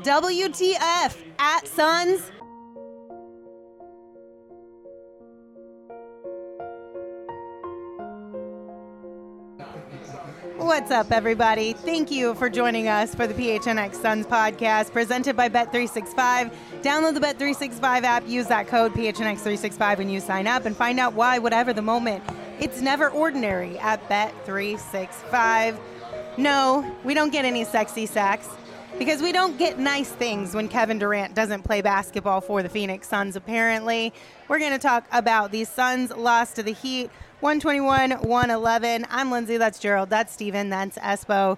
WTF at Suns. What's up, everybody? Thank you for joining us for the PHNX Suns podcast presented by Bet365. Download the Bet365 app, use that code PHNX365 when you sign up, and find out why, whatever the moment, it's never ordinary at Bet365. No, we don't get any sexy sex because we don't get nice things when Kevin Durant doesn't play basketball for the Phoenix Suns, apparently. We're going to talk about the Suns' loss to the Heat, 121-111. I'm Lindsay, that's Gerald, that's Steven, that's Espo.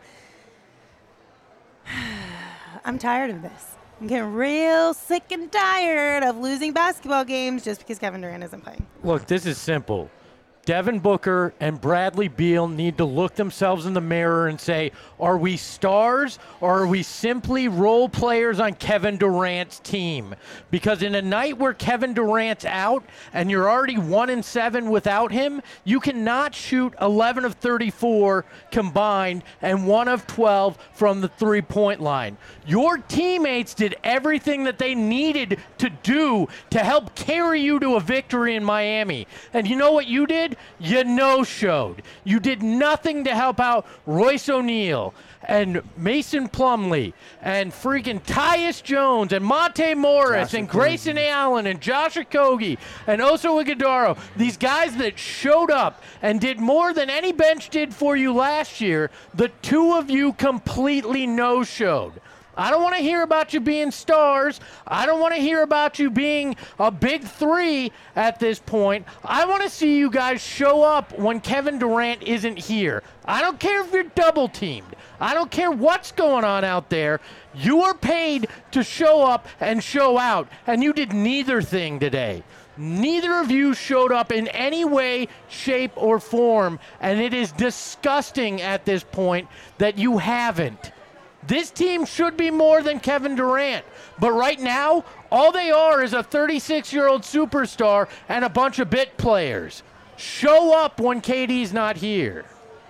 I'm tired of this. I'm getting real sick and tired of losing basketball games just because Kevin Durant isn't playing. Look, this is simple. Devin Booker and Bradley Beal need to look themselves in the mirror and say, are we stars or are we simply role players on Kevin Durant's team? Because in a night where Kevin Durant's out and you're already 1-7 without him, you cannot shoot 11 of 34 combined and 1 of 12 from the three-point line. Your teammates did everything that they needed to do to help carry you to a victory in Miami. And you know what you did? You no-showed. You did nothing to help out Royce O'Neal and Mason Plumlee and freaking Tyus Jones and Monte Morris and Grayson Allen and Josh Okogie and Oso Ighodaro. These guys that showed up and did more than any bench did for you last year, the two of you completely no-showed. I don't want to hear about you being stars. I don't want to hear about you being a big three at this point. I want to see you guys show up when Kevin Durant isn't here. I don't care if you're double teamed. I don't care what's going on out there. You are paid to show up and show out, and you did neither thing today. Neither of you showed up in any way, shape, or form, and it is disgusting at this point that you haven't. This team should be more than Kevin Durant, but right now, all they are is a 36-year-old superstar and a bunch of bit players. Show up when KD's not here.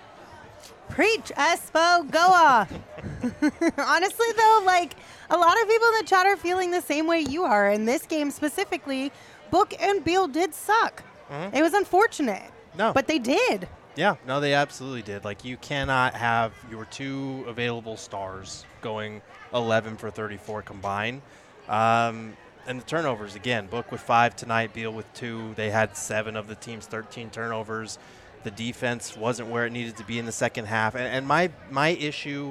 Preach, Espo, go off. Honestly, though, like, a lot of people in the chat are feeling the same way you are. In this game specifically, Book and Beal did suck. Mm-hmm. It was unfortunate. No. But they did. Yeah, no, they absolutely did. Like, you cannot have your two available stars going 11 for 34 combined. And the turnovers, again, Book with 5 tonight, Beal with 2. They had 7 of the team's 13 turnovers. The defense wasn't where it needed to be in the second half. And my issue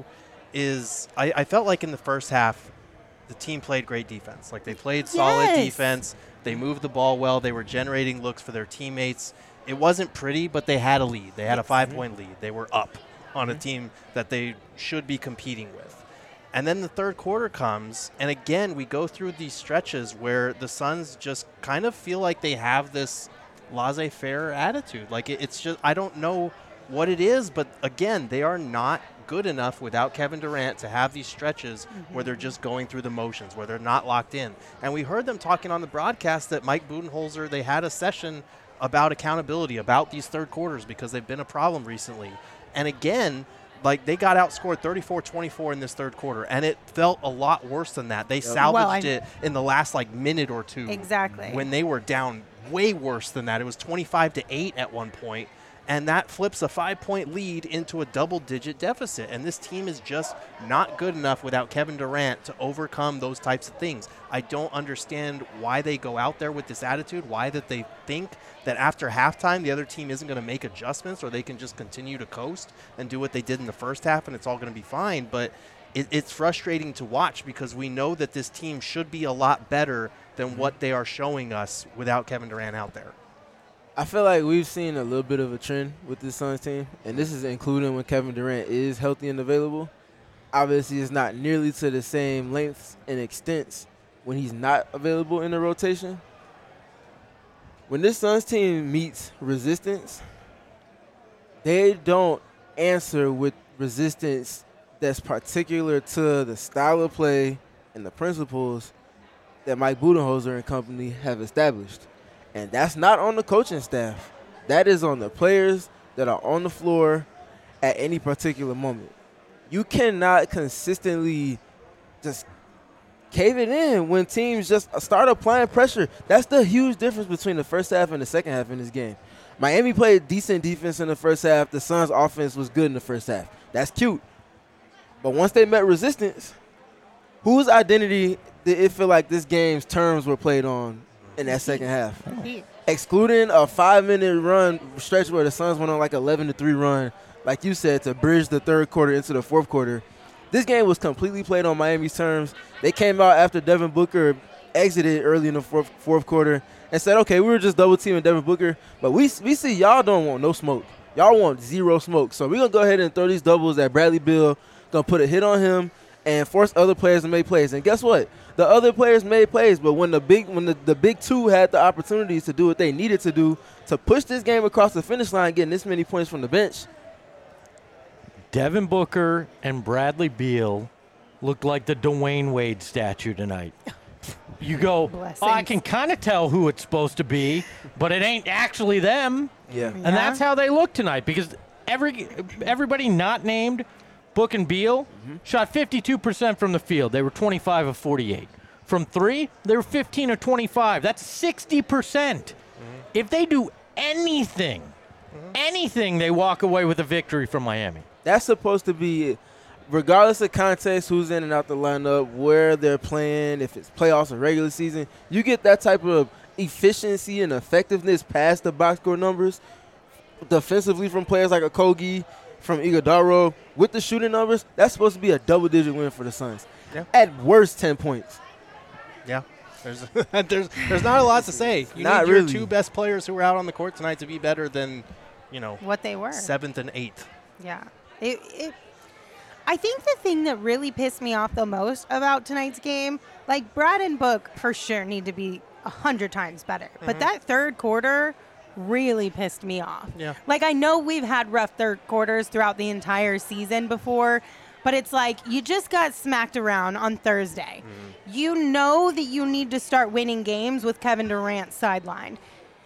is I felt like in the first half, the team played great defense. Like, they played solid defense. They moved the ball well. They were generating looks for their teammates. It wasn't pretty, but they had a lead. They had a 5-point lead. They were up on a team that they should be competing with. And then the third quarter comes, and again, we go through these stretches where the Suns just kind of feel like they have this laissez-faire attitude. Like, it's just, I don't know what it is, but again, they are not good enough without Kevin Durant to have these stretches where they're just going through the motions, where they're not locked in. And we heard them talking on the broadcast that Mike Budenholzer, they had a session about accountability, about these third quarters, because they've been a problem recently. And again, like, they got outscored 34-24 in this third quarter, and it felt a lot worse than that. They salvaged it in the last, like, minute or two. Exactly. When they were down way worse than that. It was 25-8 at one point, and that flips a 5-point lead into a double-digit deficit. And this team is just not good enough without Kevin Durant to overcome those types of things. I don't understand why they go out there with this attitude, why that they think that after halftime the other team isn't going to make adjustments or they can just continue to coast and do what they did in the first half and it's all going to be fine. But it's frustrating to watch because we know that this team should be a lot better than what they are showing us without Kevin Durant out there. I feel like we've seen a little bit of a trend with this Suns team, and this is including when Kevin Durant is healthy and available. Obviously, it's not nearly to the same lengths and extents when he's not available in the rotation. When this Suns team meets resistance, they don't answer with resistance that's particular to the style of play and the principles that Mike Budenholzer and company have established. And that's not on the coaching staff. That is on the players that are on the floor at any particular moment. You cannot consistently just caving in when teams just start applying pressure. That's the huge difference between the first half and the second half in this game. Miami played decent defense in the first half. The Suns' offense was good in the first half. That's cute. But once they met resistance, whose identity did it feel like this game's terms were played on in that second half? Excluding a 5-minute run stretch where the Suns went on like 11-3 run, like you said, to bridge the third quarter into the fourth quarter. This game was completely played on Miami's terms. They came out after Devin Booker exited early in the fourth quarter and said, okay, we were just double-teaming Devin Booker, but we see y'all don't want no smoke. Y'all want zero smoke. So we're going to go ahead and throw these doubles at Bradley Beal, going to put a hit on him and force other players to make plays. And guess what? The other players made plays, but when the big two had the opportunities to do what they needed to do to push this game across the finish line, getting this many points from the bench. Devin Booker and Bradley Beal looked like the Dwayne Wade statue tonight. You go, oh, I can kind of tell who it's supposed to be, but it ain't actually them. Yeah. And that's how they look tonight, because everybody not named Book and Beal shot 52% from the field. They were 25 of 48. From three, they were 15 of 25. That's 60%. If they do anything, they walk away with a victory from Miami. That's supposed to be, regardless of context, who's in and out the lineup, where they're playing, if it's playoffs or regular season, you get that type of efficiency and effectiveness past the box score numbers defensively from players like Okogie, from Iguodala, with the shooting numbers. That's supposed to be a double-digit win for the Suns. Yeah. At worst, 10 points. Yeah. There's not a lot to say. You Not need your really. two best players who were out on the court tonight to be better than, what they were. 7th and 8th. Yeah. I think the thing that really pissed me off the most about tonight's game, like Brad and Book for sure need to be 100 times better. But that third quarter really pissed me off. Yeah. Like, I know we've had rough third quarters throughout the entire season before, but it's like you just got smacked around on Thursday. You know that you need to start winning games with Kevin Durant sidelined.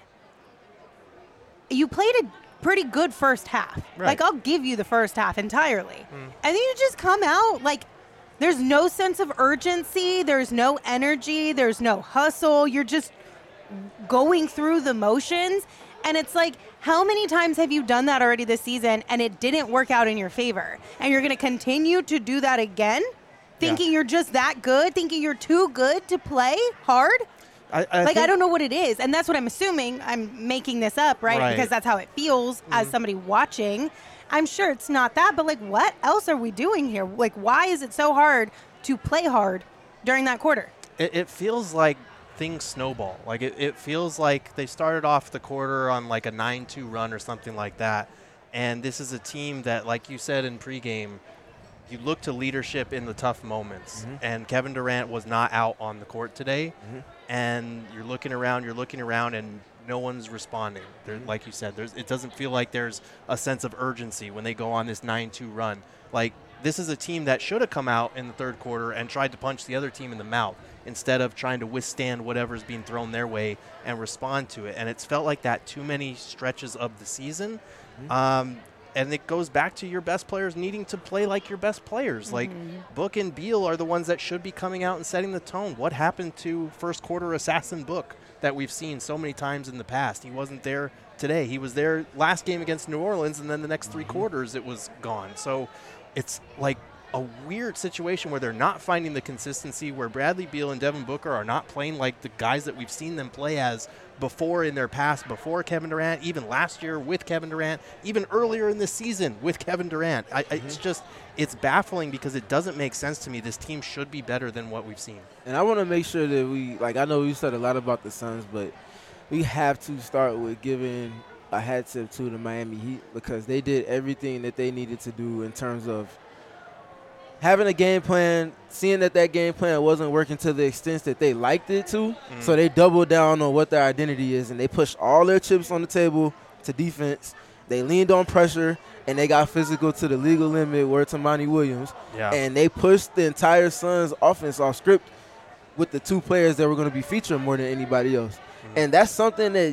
You played a pretty good first half. Right. Like, I'll give you the first half entirely. And then you just come out like there's no sense of urgency, there's no energy, there's no hustle. You're just going through the motions. And it's like, how many times have you done that already this season and it didn't work out in your favor? And you're going to continue to do that again? Thinking you're just that good? Thinking you're too good to play hard? I don't know what it is. And that's what I'm assuming. I'm making this up, right? Because that's how it feels as somebody watching. I'm sure it's not that, but like, what else are we doing here? Like, why is it so hard to play hard during that quarter? It feels like things snowball. Like, it feels like they started off the quarter on like a 9-2 run or something like that. And this is a team that, like you said in pregame, you look to leadership in the tough moments. And Kevin Durant was not out on the court today. And you're looking around, and no one's responding. Like you said, it doesn't feel like there's a sense of urgency when they go on this 9-2 run. Like, this is a team that should have come out in the third quarter and tried to punch the other team in the mouth instead of trying to withstand whatever's being thrown their way and respond to it. And it's felt like that too many stretches of the season. And it goes back to your best players needing to play like your best players. Like, Book and Beal are the ones that should be coming out and setting the tone. What happened to first quarter assassin Book that we've seen so many times in the past? He wasn't there today. He was there last game against New Orleans, and then the next three quarters it was gone. So it's like a weird situation where they're not finding the consistency, where Bradley Beal and Devin Booker are not playing like the guys that we've seen them play as before in their past, before Kevin Durant, even last year with Kevin Durant, even earlier in this season with Kevin Durant. It's baffling because it doesn't make sense to me. This team should be better than what we've seen. And I want to make sure that I know we said a lot about the Suns, but we have to start with giving a hat tip to the Miami Heat, because they did everything that they needed to do in terms of having a game plan, seeing that game plan wasn't working to the extent that they liked it to, so they doubled down on what their identity is, and they pushed all their chips on the table to defense. They leaned on pressure, and they got physical to the legal limit, word to Monty Williams, and they pushed the entire Suns offense off script with the two players that were going to be featured more than anybody else. And that's something that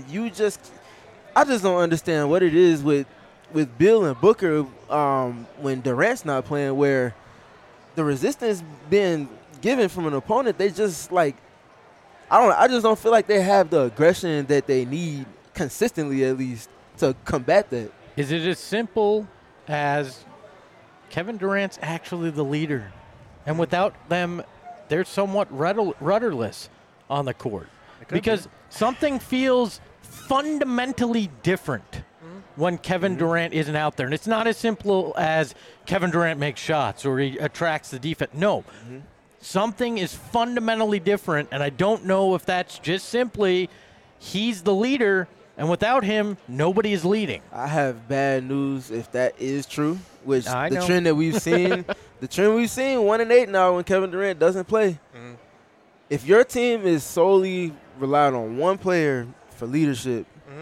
I just don't understand what it is with Bill and Booker when Durant's not playing, where the resistance being given from an opponent, they just I just don't feel like they have the aggression that they need consistently, at least, to combat that. Is it as simple as Kevin Durant's actually the leader, and without them, they're somewhat rudderless on the court? Because something feels fundamentally different when Kevin Durant isn't out there. And it's not as simple as Kevin Durant makes shots or he attracts the defense. No. Something is fundamentally different, and I don't know if that's just simply he's the leader, and without him, nobody is leading. I have bad news if that is true, which I the know. trend that we've seen, 1-8 now when Kevin Durant doesn't play. If your team is solely relied on one player for leadership,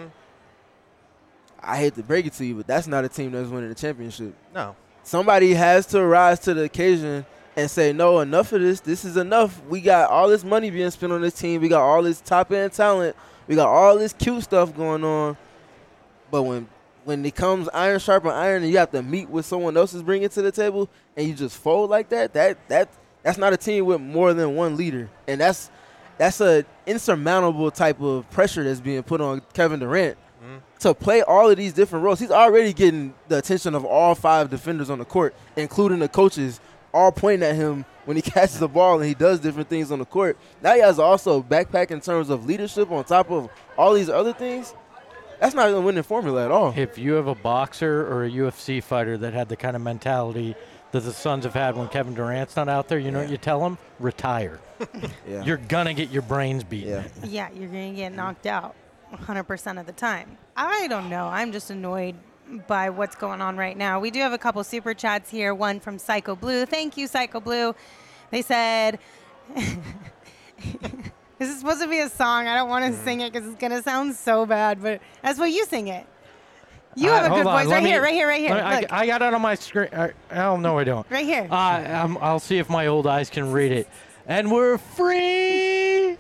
I hate to break it to you, but that's not a team that's winning the championship. No. Somebody has to rise to the occasion and say, no, enough of this. This is enough. We got all this money being spent on this team. We got all this top-end talent. We got all this cute stuff going on. But when it comes iron sharpen iron and you have to meet what someone else is bringing to the table and you just fold like that's not a team with more than one leader. And that's an insurmountable type of pressure that's being put on Kevin Durant to play all of these different roles. He's already getting the attention of all 5 defenders on the court, including the coaches, all pointing at him when he catches the ball and he does different things on the court. Now he has also backpack in terms of leadership on top of all these other things. That's not a winning formula at all. If you have a boxer or a UFC fighter that had the kind of mentality that the Suns have had when Kevin Durant's not out there, you know what you tell them? Retire. You're going to get your brains beaten. Yeah, you're going to get knocked out 100% of the time. I don't know. I'm just annoyed by what's going on right now. We do have a couple super chats here. One from Psycho Blue. Thank you, Psycho Blue. They said, this is supposed to be a song. I don't want to sing it because it's going to sound so bad, but that's what you sing it. You have a good voice. Right here. Look. I got it on my screen. Oh, no, I don't. Right here. I'll see if my old eyes can read it. And we're free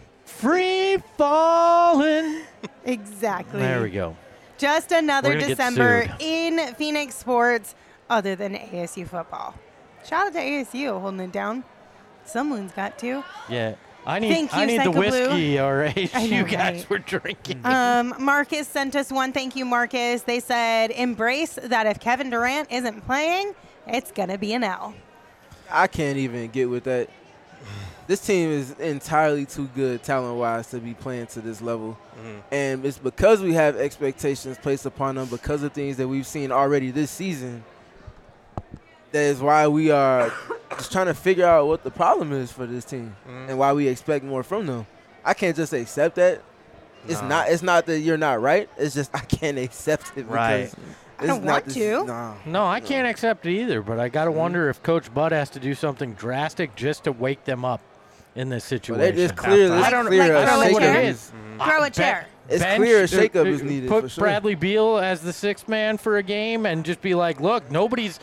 falling. Exactly. There we go. Just another We're gonna get December sued. in Phoenix sports other than ASU football. Shout out to ASU holding it down. Someone's got to. Yeah. I Thank you, need the Psycho Blue. whiskey or I know, you guys right? were drinking. Marcus sent us one. Thank you, Marcus. They said, embrace that if Kevin Durant isn't playing, it's going to be an L. I can't even get with that. This team is entirely too good talent-wise to be playing to this level. And it's because we have expectations placed upon them because of things that we've seen already this season. That is why we are just trying to figure out what the problem is for this team and why we expect more from them. I can't just accept that. No. It's not that you're not right. It's just I can't accept it. Right. I don't want to. No, I can't accept it either, but I got to wonder if Coach Bud has to do something drastic just to wake them up in this situation. It's clear. I don't know what it is. Throw a chair. It's clear a shakeup is needed. Put for sure. Bradley Beal as the sixth man for a game and just be like, look, nobody's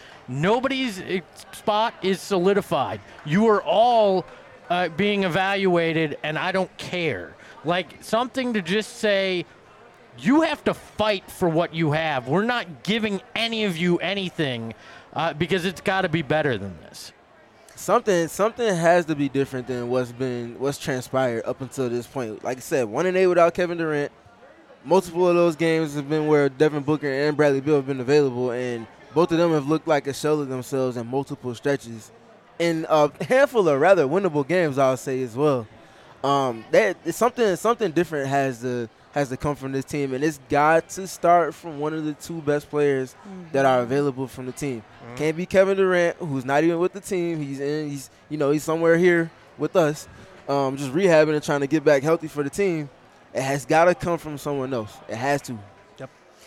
spot is solidified. You are all being evaluated, and I don't care. Like something to just say, you have to fight for what you have. We're not giving any of you anything because it's got to be better than this. Something has to be different than what's transpired up until this point. Like I said, 1-8 without Kevin Durant. Multiple of those games have been where Devin Booker and Bradley Beal have been available, and both of them have looked like a shell of themselves in multiple stretches. In a handful of rather winnable games, I'll say as well. Something different has to come from this team, and it's got to start from one of the 2 best players that are available from the team. Can't be Kevin Durant, who's not even with the team. He's somewhere here with us, just rehabbing and trying to get back healthy for the team. It has got to come from someone else. It has to. Yep.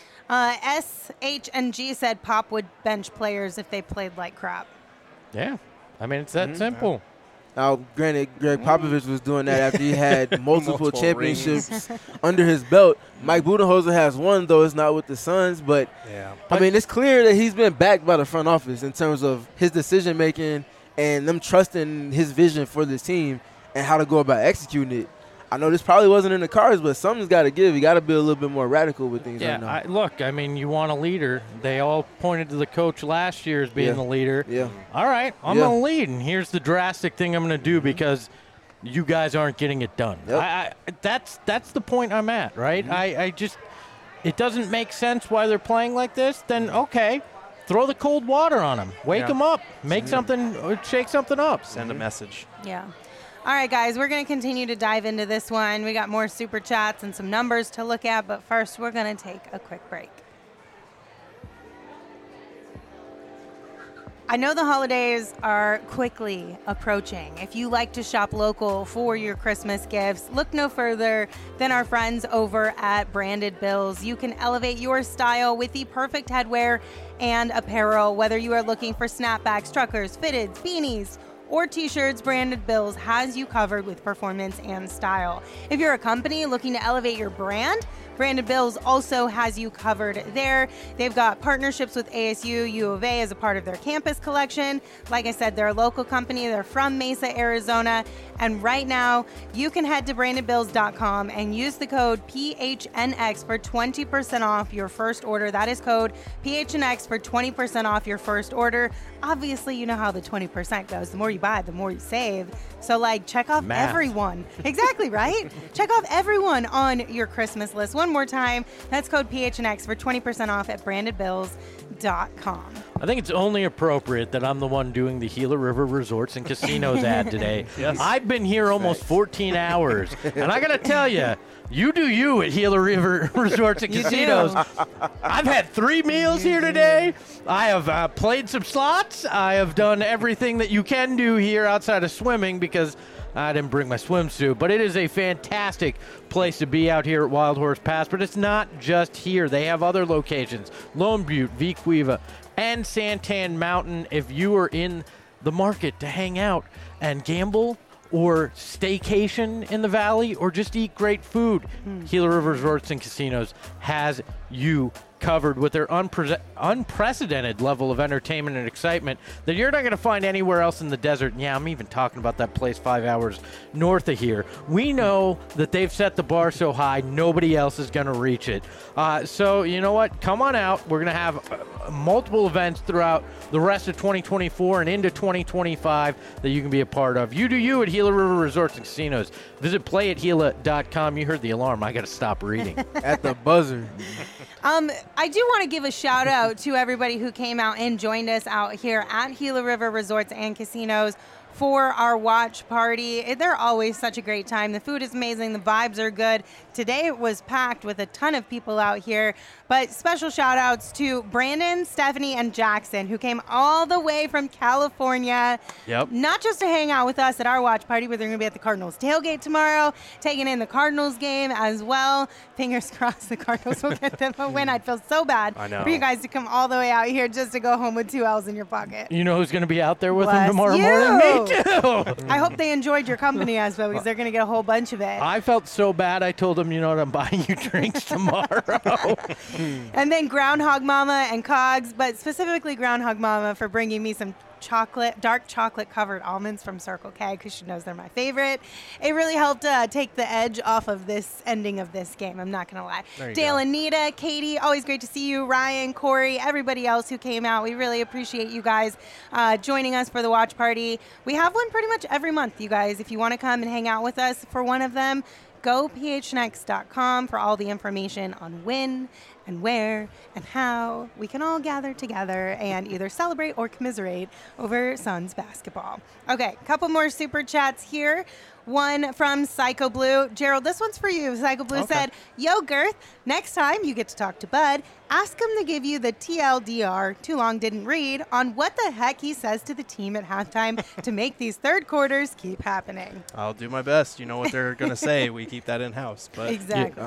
SHNG said Pop would bench players if they played like crap. Yeah. I mean, it's that simple. Now, granted, Greg Popovich was doing that after he had multiple championships rings. under his belt. Mike Budenholzer has one, though it's not with the Suns. But, I mean, it's clear that he's been backed by the front office in terms of his decision-making and them trusting his vision for this team and how to go about executing it. I know this probably wasn't in the cards, but something's got to give. You got to be a little bit more radical with things right now. Look, I mean, you want a leader. They all pointed to the coach last year as being the leader. Yeah. All right, I'm going to lead, and here's the drastic thing I'm going to do because you guys aren't getting it done. Yep. That's the point I'm at, right? I just – it doesn't make sense why they're playing like this. Then, okay, throw the cold water on them. Wake them up. Make something – shake something up. Send a message. Yeah. All right, guys, we're going to continue to dive into this one. We got more super chats and some numbers to look at, but first we're going to take a quick break. I know the holidays are quickly approaching. If you like to shop local for your Christmas gifts, look no further than our friends over at Branded Bills. You can elevate your style with the perfect headwear and apparel, whether you are looking for snapbacks, truckers, fitteds, beanies, or t-shirts. Branded Bills has you covered with performance and style. If you're a company looking to elevate your brand, Branded Bills also has you covered there. They've got partnerships with ASU, U of A as a part of their campus collection. Like I said, they're a local company. They're from Mesa, Arizona. And right now, you can head to brandedbills.com and use the code PHNX for 20% off your first order. That is code PHNX for 20% off your first order. Obviously, you know how the 20% goes. The more you buy, the more you save. So, check off everyone. Exactly, right? Check off everyone on your Christmas list. One more time, that's code PHNX for 20% off at brandedbills.com. I think it's only appropriate that I'm the one doing the Gila River Resorts and Casinos ad today. Yes. I've been here almost 14 hours, and I got to tell you, you do you at Gila River Resorts and Casinos. I've had 3 meals here today. I have played some slots. I have done everything that you can do here outside of swimming because I didn't bring my swimsuit. But it is a fantastic place to be out here at Wild Horse Pass. But it's not just here. They have other locations, Lone Butte, Vequiva, and Santan Mountain. If you are in the market to hang out and gamble or staycation in the valley or just eat great food, Gila River Resorts and Casinos has you covered with their unprecedented level of entertainment and excitement that you're not going to find anywhere else in the desert. And yeah, I'm even talking about that place 5 hours north of here. We know that they've set the bar so high, nobody else is going to reach it. So you know what? Come on out. We're going to have multiple events throughout the rest of 2024 and into 2025 that you can be a part of. You do you at Gila River Resorts and Casinos. Visit playatgila.com. You heard the alarm. I got to stop reading. At the buzzer. I do want to give a shout out to everybody who came out and joined us out here at Gila River Resorts and Casinos for our watch party. They're always such a great time. The food is amazing. The vibes are good. Today it was packed with a ton of people out here. But special shout outs to Brandon, Stephanie, and Jackson, who came all the way from California. Yep. Not just to hang out with us at our watch party, but they're going to be at the Cardinals tailgate tomorrow, taking in the Cardinals game as well. Fingers crossed the Cardinals will get them a win. I'd feel so bad for you guys to come all the way out here just to go home with 2 L's in your pocket. You know who's going to be out there with them Bless tomorrow you. morning? Me too. I hope they enjoyed your company as well, because they're going to get a whole bunch of it. I felt so bad. I told them, you know what, I'm buying you drinks tomorrow. And then Groundhog Mama and Cogs, but specifically Groundhog Mama for bringing me some dark chocolate covered almonds from Circle K, because she knows they're my favorite. It really helped take the edge off of this ending of this game. I'm not going to lie. Dale and Nita, Katie, always great to see you. Ryan, Corey, everybody else who came out. We really appreciate you guys joining us for the watch party. We have one pretty much every month, you guys. If you want to come and hang out with us for one of them, go phnx.com for all the information on when and where and how we can all gather together and either celebrate or commiserate over Suns basketball. Okay, a couple more super chats here. One from Psycho Blue. Gerald, this one's for you. Psycho Blue said, "Yo, Girth, next time you get to talk to Bud, ask him to give you the TLDR, too long didn't read, on what the heck he says to the team at halftime to make these third quarters keep happening." I'll do my best. You know what they're going to say. We keep that in-house. But Exactly.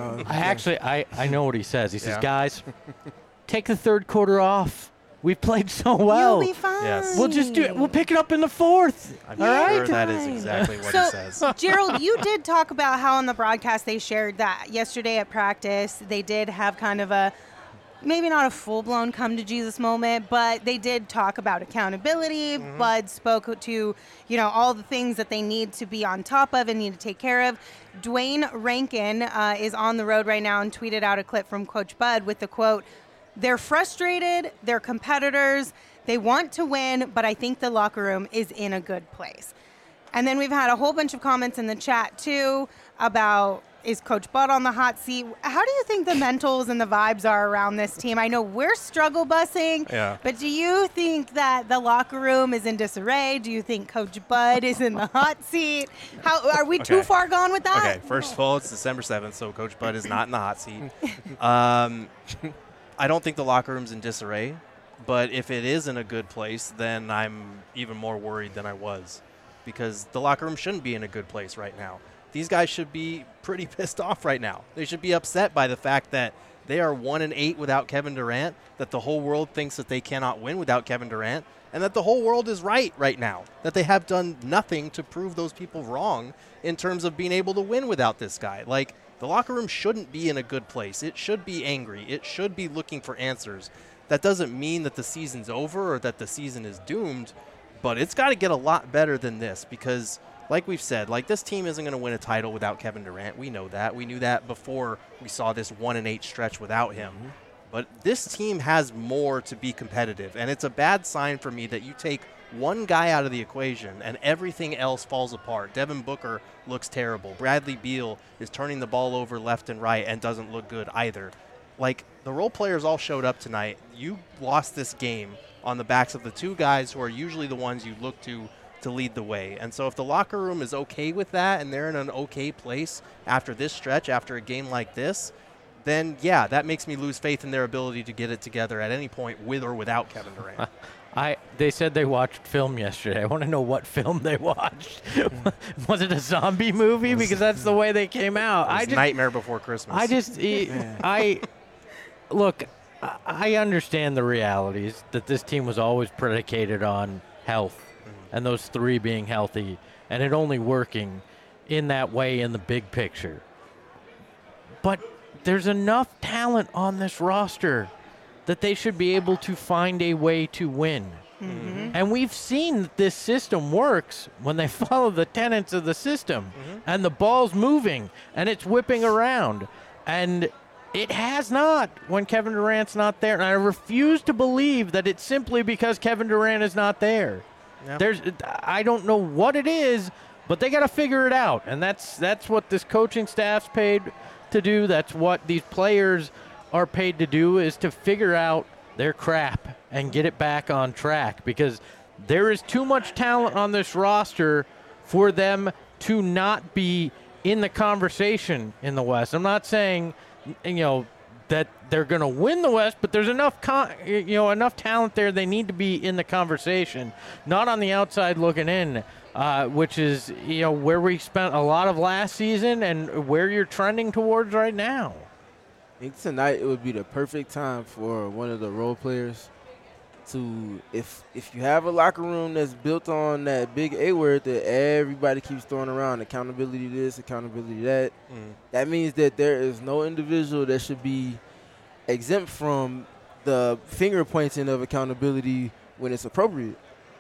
I know what he says. He says, guys, take the third quarter off. We've played so well. You'll be fine. Yes. We'll just do it. We'll pick it up in the fourth. I'm All sure right? that is exactly what he says. Gerald, you did talk about how on the broadcast they shared that yesterday at practice they did have kind of a maybe not a full-blown come-to-Jesus moment, but they did talk about accountability. Bud spoke to, all the things that they need to be on top of and need to take care of. Dwayne Rankin is on the road right now and tweeted out a clip from Coach Bud with the quote, "They're frustrated, they're competitors, they want to win, but I think the locker room is in a good place." And then we've had a whole bunch of comments in the chat, too, about is Coach Bud on the hot seat? How do you think the mentals and the vibes are around this team? I know we're struggle busing, but do you think that the locker room is in disarray? Do you think Coach Bud is in the hot seat? How are we too far gone with that? Okay, first of all, it's December 7th, so Coach Bud is not in the hot seat. I don't think the locker room's in disarray, but if it is in a good place, then I'm even more worried than I was, because the locker room shouldn't be in a good place right now. These guys should be pretty pissed off right now. They should be upset by the fact that they are 1-8 without Kevin Durant, that the whole world thinks that they cannot win without Kevin Durant, and that the whole world is right now, that they have done nothing to prove those people wrong in terms of being able to win without this guy. Like, the locker room shouldn't be in a good place. It should be angry. It should be looking for answers. That doesn't mean that the season's over or that the season is doomed, but it's got to get a lot better than this, because like we've said, this team isn't going to win a title without Kevin Durant. We know that. We knew that before we saw this 1-8 stretch without him. But this team has more to be competitive, and it's a bad sign for me that you take one guy out of the equation and everything else falls apart. Devin Booker looks terrible. Bradley Beal is turning the ball over left and right and doesn't look good either. The role players all showed up tonight. You lost this game on the backs of the two guys who are usually the ones you look to lead the way. And so if the locker room is okay with that and they're in an okay place after this stretch, after a game like this, then yeah, that makes me lose faith in their ability to get it together at any point with or without Kevin Durant. They said they watched film yesterday. I want to know what film they watched. Was it a zombie movie? Because that's the way they came out. Nightmare Before Christmas. Look, I understand the realities that this team was always predicated on health. And those three being healthy, and it only working in that way in the big picture. But there's enough talent on this roster that they should be able to find a way to win. And we've seen that this system works when they follow the tenets of the system, and the ball's moving, and it's whipping around. And it has not when Kevin Durant's not there. And I refuse to believe that it's simply because Kevin Durant is not there. Yep. I don't know what it is, but they got to figure it out, and that's what this coaching staff's paid to do. That's what these players are paid to do, is to figure out their crap and get it back on track, because there is too much talent on this roster for them to not be in the conversation in the West. I'm not saying, that they're going to win the West, but there's enough enough talent there. They need to be in the conversation, not on the outside looking in, which is where we spent a lot of last season and where you're trending towards right now. I think tonight it would be the perfect time for one of the role players to, if you have a locker room that's built on that big A word that everybody keeps throwing around, accountability this, accountability that, that means that there is no individual that should be exempt from the finger pointing of accountability when it's appropriate.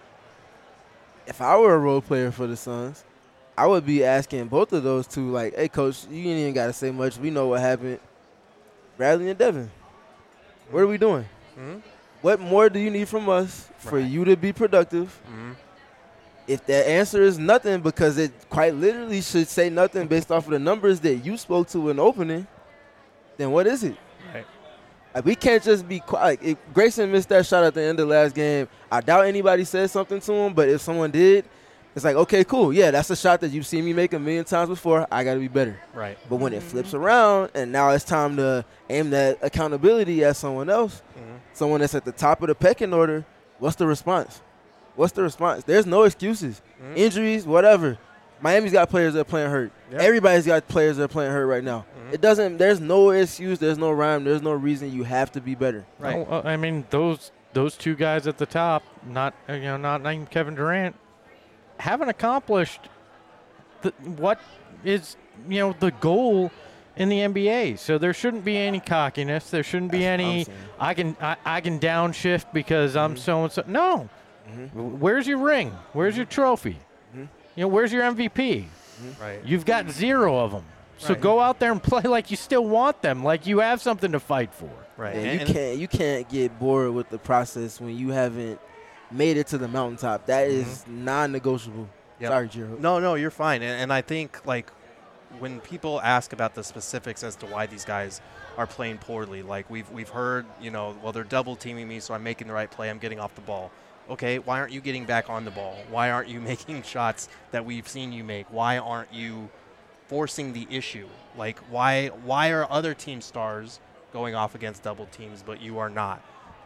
If I were a role player for the Suns, I would be asking both of those two, hey, coach, you ain't even got to say much. We know what happened. Bradley and Devin, what are we doing? What more do you need from us for you to be productive? If the answer is nothing, because it quite literally should say nothing based off of the numbers that you spoke to in the opening, then what is it? Right. We can't just be quiet. If Grayson missed that shot at the end of the last game, I doubt anybody said something to him, but if someone did, it's okay, cool. Yeah, that's a shot that you've seen me make a million times before. I got to be better. Right. But when it flips around and now it's time to aim that accountability at someone else, someone that's at the top of the pecking order, what's the response? There's no excuses. Injuries, whatever. Miami's got players that are playing hurt. Yep. Everybody's got players that are playing hurt right now. There's no excuse, there's no rhyme, there's no reason you have to be better. Right. No, I mean, those two guys at the top, not named Kevin Durant, haven't accomplished what is the goal in the NBA. So there shouldn't be any cockiness. There shouldn't be That's what any, I'm I can downshift because I'm so-and-so. No. Where's your ring? Where's your trophy? Where's your MVP? Right. You've got 0 of them. So Right. go out there and play like you still want them, like you have something to fight for. Right. Yeah, you can't get bored with the process when you haven't made it to the mountaintop. That is non-negotiable. Yep. Sorry, Jiro. No, you're fine. And I think, like, when people ask about the specifics as to why these guys are playing poorly, like we've heard, well, they're double teaming me, so I'm making the right play. I'm getting off the ball. Okay, why aren't you getting back on the ball? Why aren't you making shots that we've seen you make? Why aren't you forcing the issue? Like, why are other team stars going off against double teams, but you are not?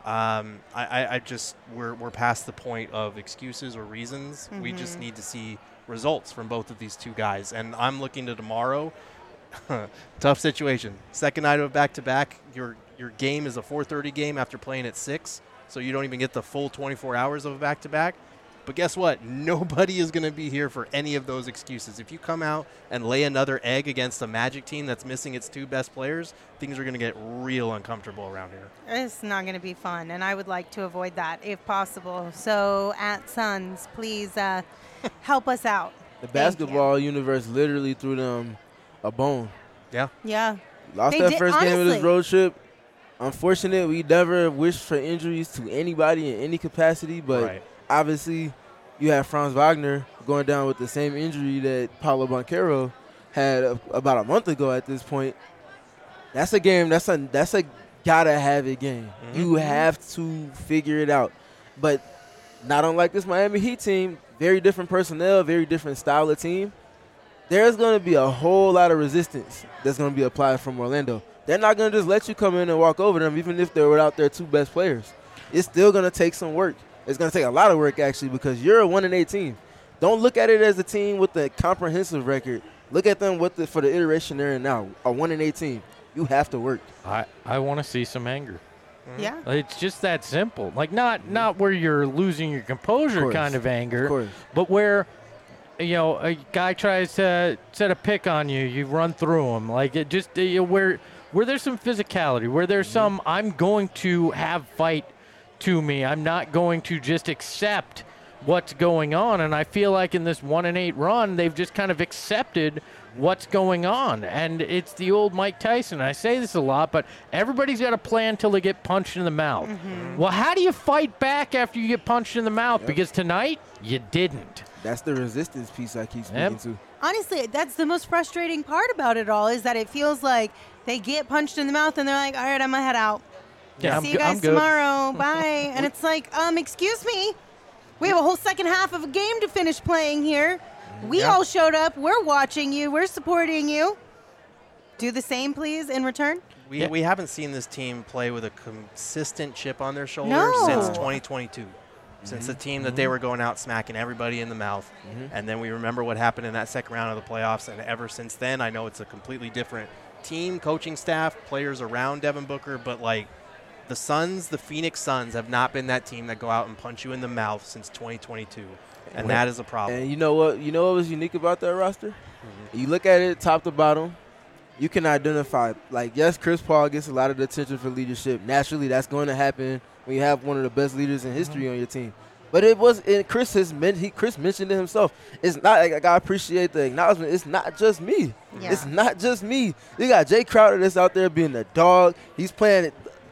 We're past the point of excuses or reasons. We just need to see results from both of these two guys. And I'm looking to tomorrow. Tough situation. Second night of back-to-back. Your game is a 4:30 game after playing at 6, so you don't even get the full 24 hours of a back-to-back. But guess what? Nobody is going to be here for any of those excuses. If you come out and lay another egg against a Magic team that's missing its 2 best players, things are going to get real uncomfortable around here. It's not going to be fun, and I would like to avoid that if possible. So at Suns, please help us out. The Thank basketball universe literally threw them a bone. Yeah. Yeah. Lost They that did- first game of this honestly. road trip. Unfortunate, we never wished for injuries to anybody in any capacity, but Right. obviously you have Franz Wagner going down with the same injury that Paulo Banchero had about a month ago at this point. That's a game. That's a gotta have it game. You have to figure it out. But not unlike this Miami Heat team, very different personnel, very different style of team. There's going to be a whole lot of resistance that's going to be applied from Orlando. They're not going to just let you come in and walk over them, even if they're without their 2 best players. It's still going to take some work. It's going to take a lot of work, actually, because you're a 1-8 team. Don't look at it as a team with a comprehensive record. Look at them for the iteration they're in now, a 1-8 team. You have to work. I want to see some anger. Yeah. It's just that simple. Like not where you're losing your composure course. kind of anger, Of course. but where a guy tries to set a pick on you, you run through him. Like it just where there's some physicality, where there's some I'm going to have fight to me. I'm not going to just accept what's going on. And I feel like in this 1-8 run, they've just kind of accepted what's going on. And it's the old Mike Tyson. I say this a lot, but everybody's got a plan until they get punched in the mouth. Well, how do you fight back after you get punched in the mouth? Because tonight, you didn't. That's the resistance piece I keep speaking to. Honestly, that's the most frustrating part about it all is that it feels like they get punched in the mouth and they're like, all right, I'm going to head out. Yeah, See you guys tomorrow. Bye. And it's like, excuse me. We have a whole second half of a game to finish playing here. We all showed up. We're watching you. We're supporting you. Do the same, please, in return. We haven't seen this team play with a consistent chip on their shoulder No. since 2022. Since the team that they were going out smacking everybody in the mouth. And then we remember what happened in that second round of the playoffs. And ever since then, I know it's a completely different team, coaching staff, players around Devin Booker. But, like, the Suns, the Phoenix Suns, have not been that team that go out and punch you in the mouth since 2022. And that is a problem. And you know what? You know what was unique about that roster? You look at it top to bottom, you can identify. Like, yes, Chris Paul gets a lot of the attention for leadership. Naturally, that's going to happen when you have one of the best leaders in history on your team. But Chris mentioned it himself. It's not like I appreciate the acknowledgement. It's not just me. Yeah. It's not just me. You got Jay Crowder that's out there being a dog. He's playing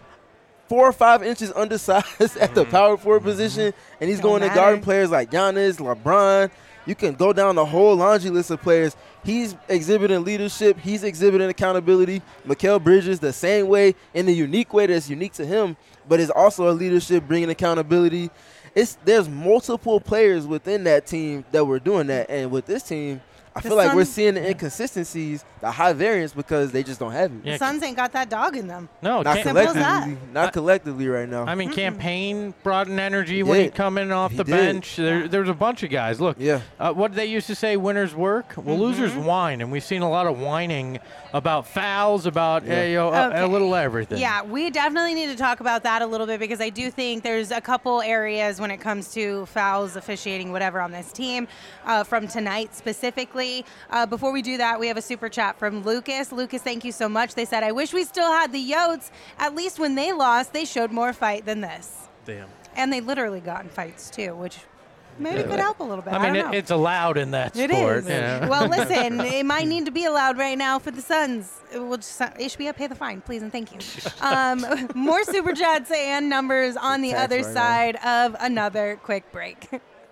4 or 5 inches undersized at the power forward position, and he's Don't going to matter. guard players like Giannis, LeBron. You can go down the whole laundry list of players. He's exhibiting leadership. He's exhibiting accountability. Mikal Bridges the same way, in a unique way that's unique to him, but is also a leadership, bringing accountability. There's multiple players within that team that were doing that, and with this team, I feel like we're seeing the inconsistencies, the high variance, because they just don't have it. Yeah, The Suns ain't got that dog in them. No, Not can't- Simple as that. collectively, not collectively right now. I mean, Campaign brought an energy when he'd did. come in off He the did. bench. There was a bunch of guys. Look, Yeah. what did they used to say? Winners work. Well, losers whine, and we've seen a lot of whining about fouls, about Okay. a little everything. Yeah, we definitely need to talk about that a little bit because I do think there's a couple areas when it comes to fouls, officiating, whatever on this team from tonight specifically. quickly. Before we do that, we have a super chat from Lucas. Lucas, thank you so much. They said, I wish we still had the Yotes. At least when they lost, they showed more fight than this. Damn. And they literally got in fights, too, which maybe could help a little bit. I mean, don't know. it's allowed in that It sport. is. you know? Well, listen, it might need to be allowed right now for the Suns. We'll just, HBF, pay the fine, please, and thank you. More super chats and numbers on the Tax other right side of another quick break.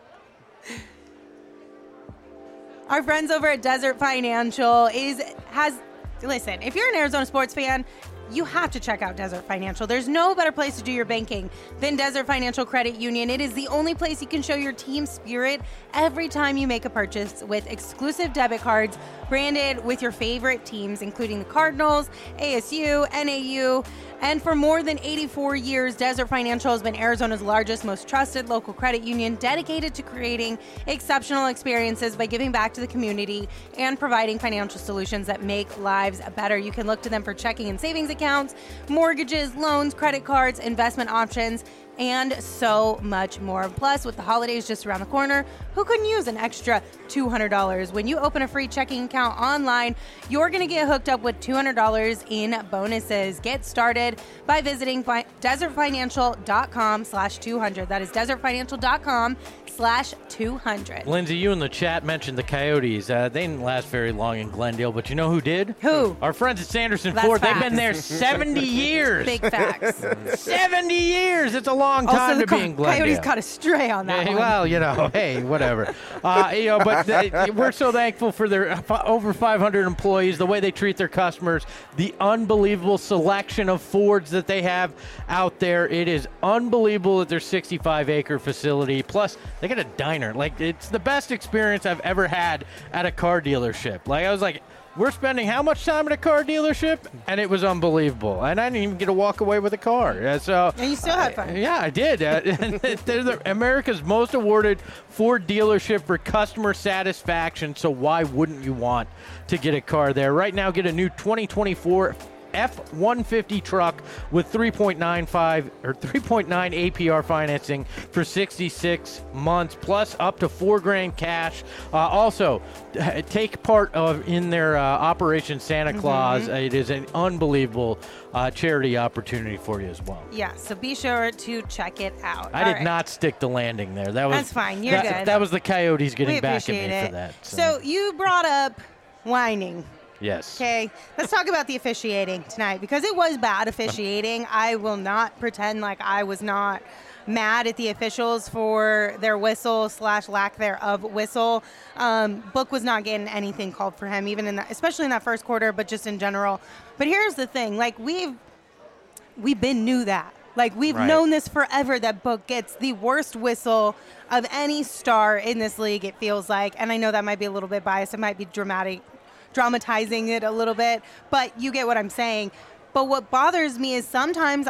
Our friends over at Desert Financial listen, if you're an Arizona sports fan, you have to check out Desert Financial. There's no better place to do your banking than Desert Financial Credit Union. It is the only place you can show your team spirit every time you make a purchase with exclusive debit cards branded with your favorite teams, including the Cardinals, ASU, NAU. And for more than 84 years, Desert Financial has been Arizona's largest, most trusted local credit union, dedicated to creating exceptional experiences by giving back to the community and providing financial solutions that make lives better. You can look to them for checking and savings accounts, mortgages, loans, credit cards, investment options, and so much more. Plus, with the holidays just around the corner, who couldn't use an extra $200? When you open a free checking account online, you're going to get hooked up with $200 in bonuses. Get started by visiting desertfinancial.com/200. That is desertfinancial.com/200. Lindsay, you in the chat mentioned the Coyotes. They didn't last very long in Glendale, but you know who did? Who? Our friends at Sanderson That's Ford. facts. They've been there 70 years. Big facts. 70 years. It's a long time Also, the to be in Glendale. Coyotes caught a stray on that Yeah, one. well, hey, whatever. But we're so thankful for their over 500 employees, the way they treat their customers, the unbelievable selection of Fords that they have out there. It is unbelievable at their 65-acre facility. Plus, they got a diner. Like, it's the best experience I've ever had at a car dealership. Like, I was like, we're spending how much time at a car dealership? And it was unbelievable. And I didn't even get to walk away with a car. So, And you still had fun. Yeah, I did. They're America's most awarded Ford dealership for customer satisfaction. So why wouldn't you want to get a car there? Right now, get a new 2024 F-150 truck with 3.95 or 3.9 APR financing for 66 months, plus up to $4,000 cash. Also, take part in their Operation Santa Claus. It is an unbelievable charity opportunity for you as well. Yeah, so be sure to check it out. I did not stick the landing there. That's fine. You're good. That was the Coyotes getting We back at me appreciate for it. that. So you brought up whining. Yes. Okay, let's talk about the officiating tonight because it was bad officiating. I will not pretend like I was not mad at the officials for their whistle / lack thereof whistle. Book was not getting anything called for him, even in that, especially in that first quarter, but just in general. But here's the thing: like we've been knew that. Like we've known this forever that Book gets the worst whistle of any star in this league. It feels like, and I know that might be a little bit biased. It might be dramatizing it a little bit, but you get what I'm saying. But what bothers me is sometimes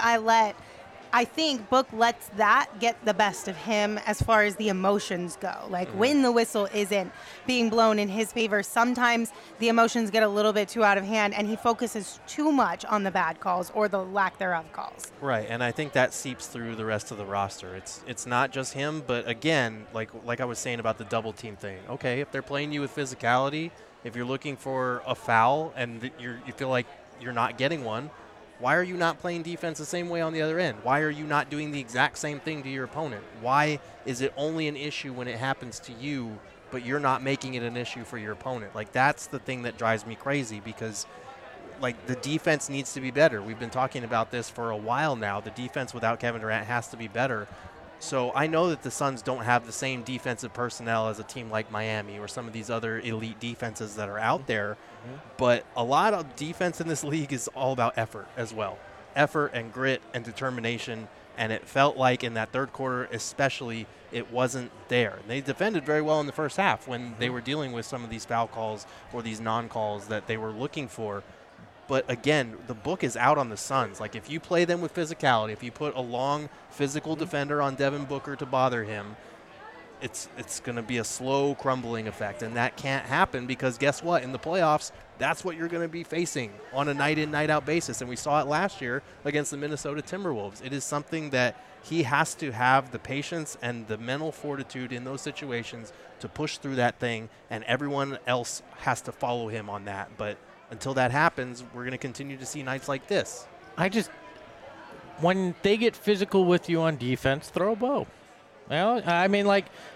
I think Book lets that get the best of him as far as the emotions go. Like when the whistle isn't being blown in his favor, sometimes the emotions get a little bit too out of hand and he focuses too much on the bad calls or the lack thereof calls. Right, and I think that seeps through the rest of the roster. It's not just him, but again, like I was saying about the double team thing. Okay, if they're playing you with physicality, if you're looking for a foul and you feel like you're not getting one, why are you not playing defense the same way on the other end? Why are you not doing the exact same thing to your opponent? Why is it only an issue when it happens to you, but you're not making it an issue for your opponent? Like, that's the thing that drives me crazy because, like, the defense needs to be better. We've been talking about this for a while now. The defense without Kevin Durant has to be better. So I know that the Suns don't have the same defensive personnel as a team like Miami or some of these other elite defenses that are out there, but a lot of defense in this league is all about effort as well. Effort and grit and determination, and it felt like in that third quarter especially it wasn't there. And they defended very well in the first half when they were dealing with some of these foul calls or these non-calls that they were looking for. But again, the book is out on the Suns. Like, if you play them with physicality, if you put a long physical defender on Devin Booker to bother him, it's going to be a slow crumbling effect, and that can't happen because guess what? In the playoffs, that's what you're going to be facing on a night-in, night-out basis, and we saw it last year against the Minnesota Timberwolves. It is something that he has to have the patience and the mental fortitude in those situations to push through that thing, and everyone else has to follow him on that. But until that happens, we're going to continue to see nights like this. When they get physical with you on defense, throw a bow. Well, I mean,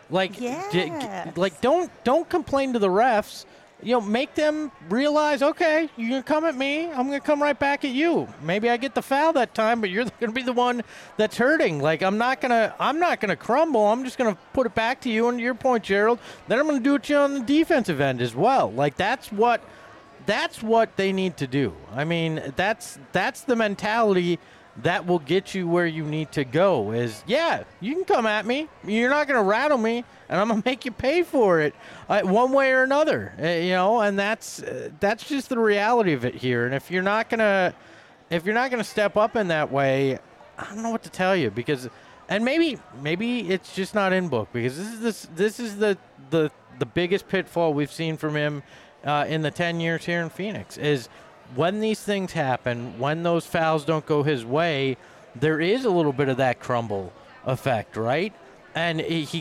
don't complain to the refs. Make them realize, okay, you're going to come at me, I'm going to come right back at you. Maybe I get the foul that time, but you're going to be the one that's hurting. Like, I'm not going to crumble. I'm just going to put it back to you. And to your point, Gerald, then I'm going to do it to you on the defensive end as well. Like, that's what they need to do. I mean, that's the mentality that will get you where you need to go is, yeah, you can come at me. You're not going to rattle me, and I'm going to make you pay for it one way or another, and that's just the reality of it here. And if you're not going to step up in that way, I don't know what to tell you and maybe it's just not in book because this is the biggest pitfall we've seen from him in the 10 years here in Phoenix is when these things happen, when those fouls don't go his way, there is a little bit of that crumble effect, right? And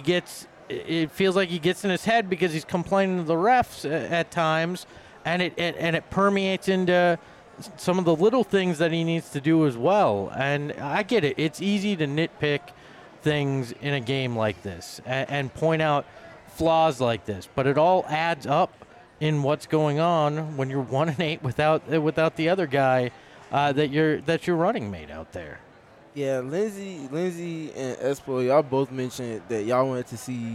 it feels like he gets in his head because he's complaining to the refs at times, and it permeates into some of the little things that he needs to do as well. And I get it. It's easy to nitpick things in a game like this and point out flaws like this, but it all adds up in what's going on when you're 1-8 without the other guy that you're running mate out there. Yeah, Lindsey and Espo, y'all both mentioned that y'all wanted to see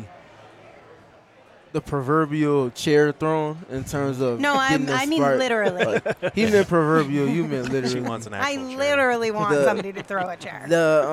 the proverbial chair thrown in terms of I mean literally. He meant proverbial, you meant literally. She wants an actual chair. Literally want somebody to throw a chair.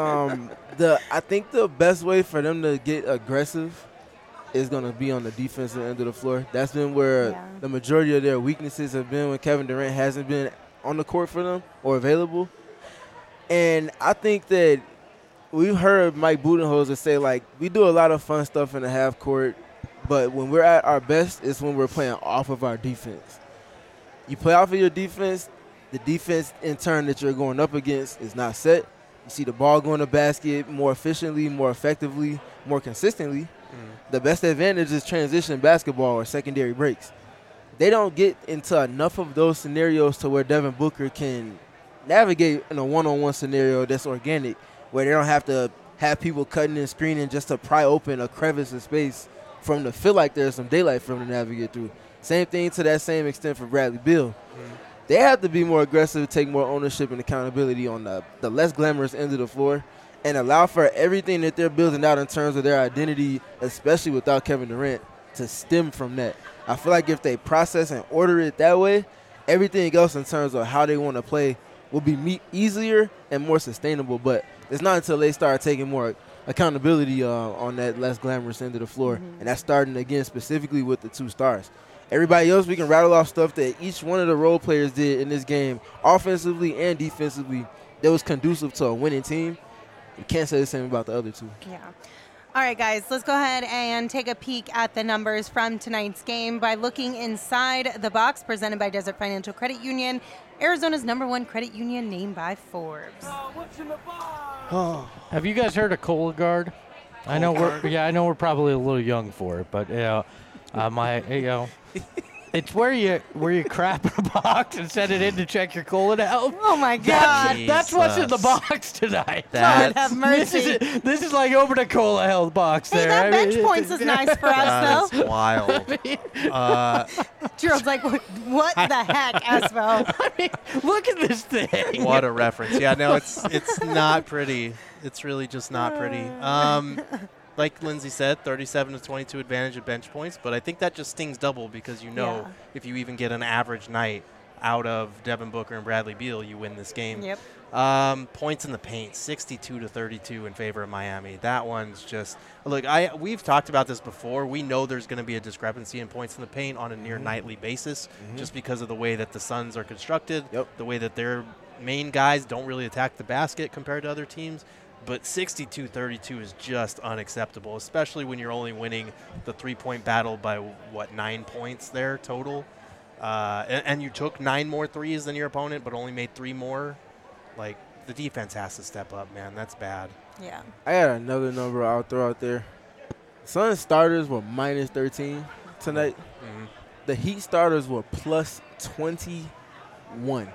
I think the best way for them to get aggressive is going to be on the defensive end of the floor. That's been where the majority of their weaknesses have been when Kevin Durant hasn't been on the court for them or available. And I think that we've heard Mike Budenholzer say, like, we do a lot of fun stuff in the half court, but when we're at our best, it's when we're playing off of our defense. You play off of your defense, the defense in turn that you're going up against is not set. You see the ball go in the basket more efficiently, more effectively, more consistently. The best advantage is transition basketball or secondary breaks. They don't get into enough of those scenarios to where Devin Booker can navigate in a one-on-one scenario that's organic, where they don't have to have people cutting and screening just to pry open a crevice of space for them to feel like there's some daylight for them to navigate through. Same thing to that same extent for Bradley Beal. They have to be more aggressive, take more ownership and accountability on the less glamorous end of the floor, and allow for everything that they're building out in terms of their identity, especially without Kevin Durant, to stem from that. I feel like if they process and order it that way, everything else in terms of how they want to play will be easier and more sustainable. But it's not until they start taking more accountability on that less glamorous end of the floor. And that's starting, again, specifically with the two stars. Everybody else, we can rattle off stuff that each one of the role players did in this game, offensively and defensively, that was conducive to a winning team. You can't say the same about the other two. Yeah. All right, guys, let's go ahead and take a peek at the numbers from tonight's game by looking inside the box presented by Desert Financial Credit Union, Arizona's #1 credit union named by Forbes. Have you guys heard of Cologuard? I know we're probably a little young for it, but it's where you crap in a box and send it in to check your colon health. Oh my God! That's what's in the box tonight. God have mercy. This is like open a cola health box. Hey, there. that bench points is nice for us, though. That's wild. Gerald's like, what the heck, Espo? I mean, look at this thing. What a reference. Yeah, no, it's not pretty. It's really just not pretty. Like Lindsey said, 37-22 advantage of bench points, but I think that just stings double because if you even get an average night out of Devin Booker and Bradley Beal, you win this game. Yep. Points in the paint, 62-32 in favor of Miami. That one's just look. We've talked about this before. We know there's going to be a discrepancy in points in the paint on a near nightly basis, just because of the way that the Suns are constructed, the way that their main guys don't really attack the basket compared to other teams. But 62-32 is just unacceptable, especially when you're only winning the 3-point battle by, 9 points there total. And you took 9 more threes than your opponent, but only made 3 more. Like, the defense has to step up, man. That's bad. Yeah. I got another number I'll throw out there. Suns starters were minus 13 tonight. Mm-hmm. The Heat starters were plus 21.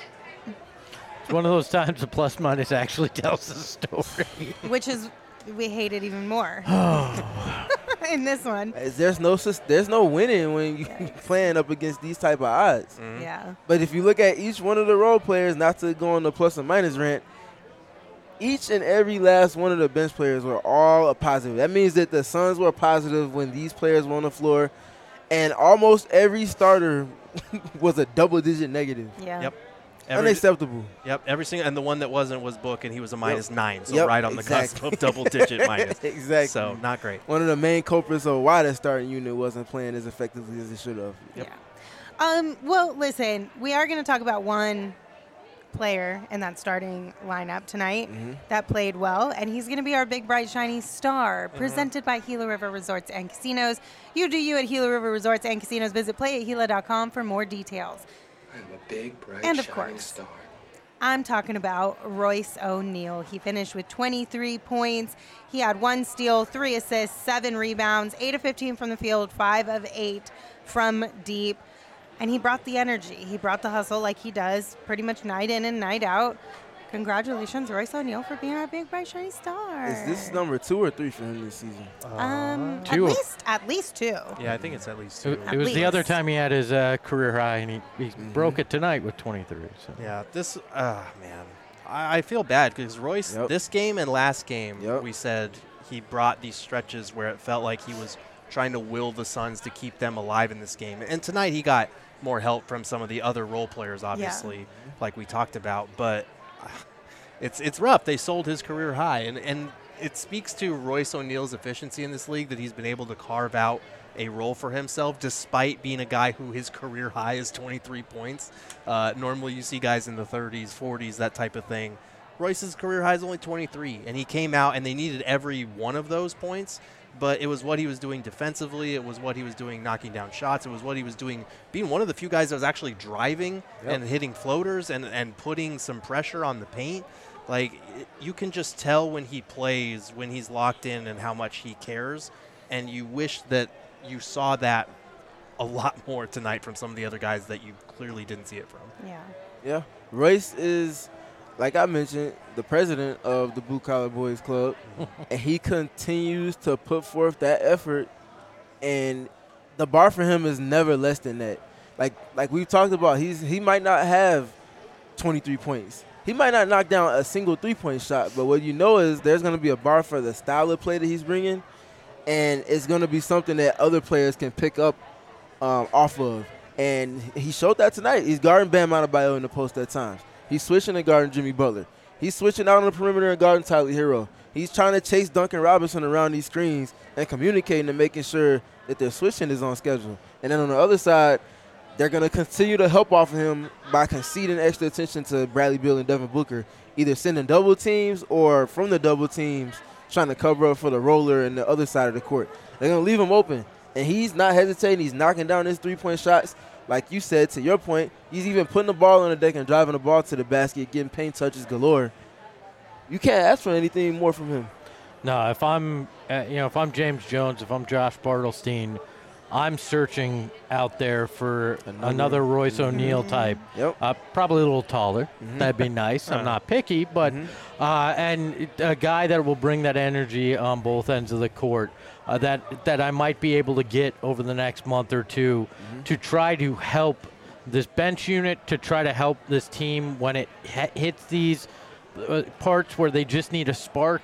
It's one of those times the plus minus actually tells the story. Which is, we hate it even more in this one. There's no winning when you're playing up against these type of odds. Mm-hmm. Yeah. But if you look at each one of the role players, not to go on the plus and minus rant, each and every last one of the bench players were all a positive. That means that the Suns were positive when these players were on the floor, and almost every starter was a double-digit negative. Yeah. Yep. Unacceptable. Yep, every single, and the one that wasn't was Book, and he was a minus 9, so Yep, right on the cusp of double-digit minus. Exactly. So not great. One of the main culprits of why the starting unit wasn't playing as effectively as it should have. Yep. Yeah. Well, listen, we are going to talk about one player in that starting lineup tonight that played well, and he's going to be our big, bright, shiny star, presented by Gila River Resorts and Casinos. You do you at Gila River Resorts and Casinos. Visit playatgila.com for more details. I'm a big, bright, And of shining course, star. I'm talking about Royce O'Neal. He finished with 23 points. He had 1 steal, 3 assists, 7 rebounds, 8 of 15 from the field, 5 of 8 from deep. And he brought the energy. He brought the hustle like he does pretty much night in and night out. Congratulations, Royce O'Neal, for being our big, bright, shiny star. Is this number 2 or 3 for him this season? Two. At least 2. Yeah, I think it's at least 2. It was the other least. time he had his career high, and he broke it tonight with 23. So. Yeah, this, man. I feel bad because Royce, this game and last game, we said he brought these stretches where it felt like he was trying to will the Suns to keep them alive in this game. And tonight he got more help from some of the other role players, obviously, like we talked about. But it's rough. They sold his career high. And it speaks to Royce O'Neal's efficiency in this league that he's been able to carve out a role for himself despite being a guy who his career high is 23 points. Normally you see guys in the 30s, 40s, that type of thing. Royce's career high is only 23, and he came out and they needed every one of those points, but it was what he was doing defensively. It was what he was doing knocking down shots. It was what he was doing being one of the few guys that was actually driving and hitting floaters and putting some pressure on the paint. Like, you can just tell when he plays, when he's locked in and how much he cares, and you wish that you saw that a lot more tonight from some of the other guys that you clearly didn't see it from. Yeah. Royce is, like I mentioned, the president of the Blue Collar Boys Club, and he continues to put forth that effort, and the bar for him is never less than that. Like we've talked about, he might not have 23 points. He might not knock down a single three-point shot, but what you know is there's going to be a bar for the style of play that he's bringing, and it's going to be something that other players can pick up off of. And he showed that tonight. He's guarding Bam Adebayo in the post at times. He's switching and guarding Jimmy Butler. He's switching out on the perimeter and guarding Tyler Hero. He's trying to chase Duncan Robinson around these screens and communicating and making sure that their switching is on schedule. And then on the other side, they're going to continue to help off of him by conceding extra attention to Bradley Beal and Devin Booker, either sending double teams or from the double teams trying to cover up for the roller and the other side of the court. They're going to leave him open, and he's not hesitating. He's knocking down his three-point shots. Like you said, to your point, he's even putting the ball on the deck and driving the ball to the basket, getting paint touches galore. You can't ask for anything more from him. No, if I'm James Jones, if I'm Josh Bartelstein, I'm searching out there for another Royce O'Neal type. Yep. Probably a little taller. That'd be nice. I'm not picky, but and a guy that will bring that energy on both ends of the court that I might be able to get over the next month or two to try to help this bench unit, to try to help this team when it hits these parts where they just need a spark.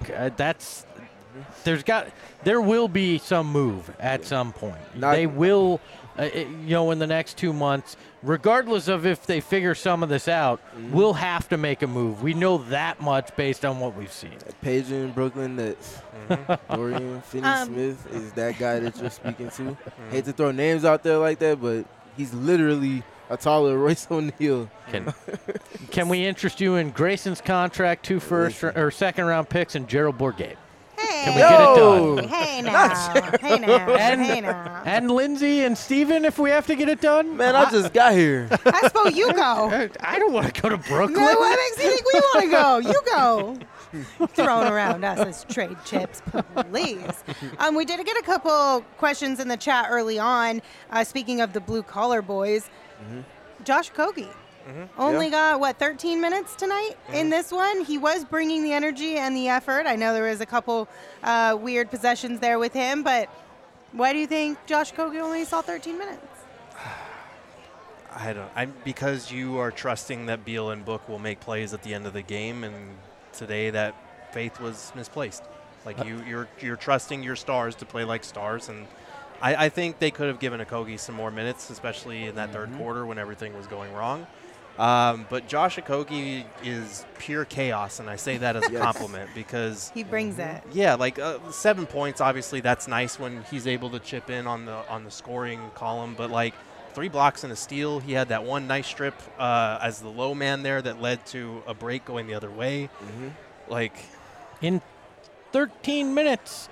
There will be some move at some point. They will, in the next 2 months, regardless of if they figure some of this out, we'll have to make a move. We know that much based on what we've seen. Page in Brooklyn Nets. Dorian Finney-Smith is that guy that you're speaking to. Hate to throw names out there like that, but he's literally a taller Royce O'Neal. Can we interest you in Grayson's contract, 2 second-round picks, and Gerald Bourguet? Hey. Can we get it done? Hey now. Hey now. Hey now. And Lindsay and Steven, if we have to get it done? Man, I just got here. I suppose you go. I don't want to go to Brooklyn. No, what makes you think we want to go? You go. Throwing around us as trade chips, please. We did get a couple questions in the chat early on. Speaking of the blue-collar boys, Josh Okogie. Only got, 13 minutes tonight in this one? He was bringing the energy and the effort. I know there was a couple weird possessions there with him, but why do you think Josh Okogie only saw 13 minutes? Because you are trusting that Beal and Book will make plays at the end of the game, and today that faith was misplaced. Like you're trusting your stars to play like stars, and I think they could have given Okogie some more minutes, especially in that third quarter when everything was going wrong. But Josh Okogie is pure chaos, and I say that as a compliment because he brings it. Yeah, 7 points. Obviously, that's nice when he's able to chip in on the scoring column. But 3 blocks and a steal. He had that one nice strip as the low man there that led to a break going the other way. In 13 minutes,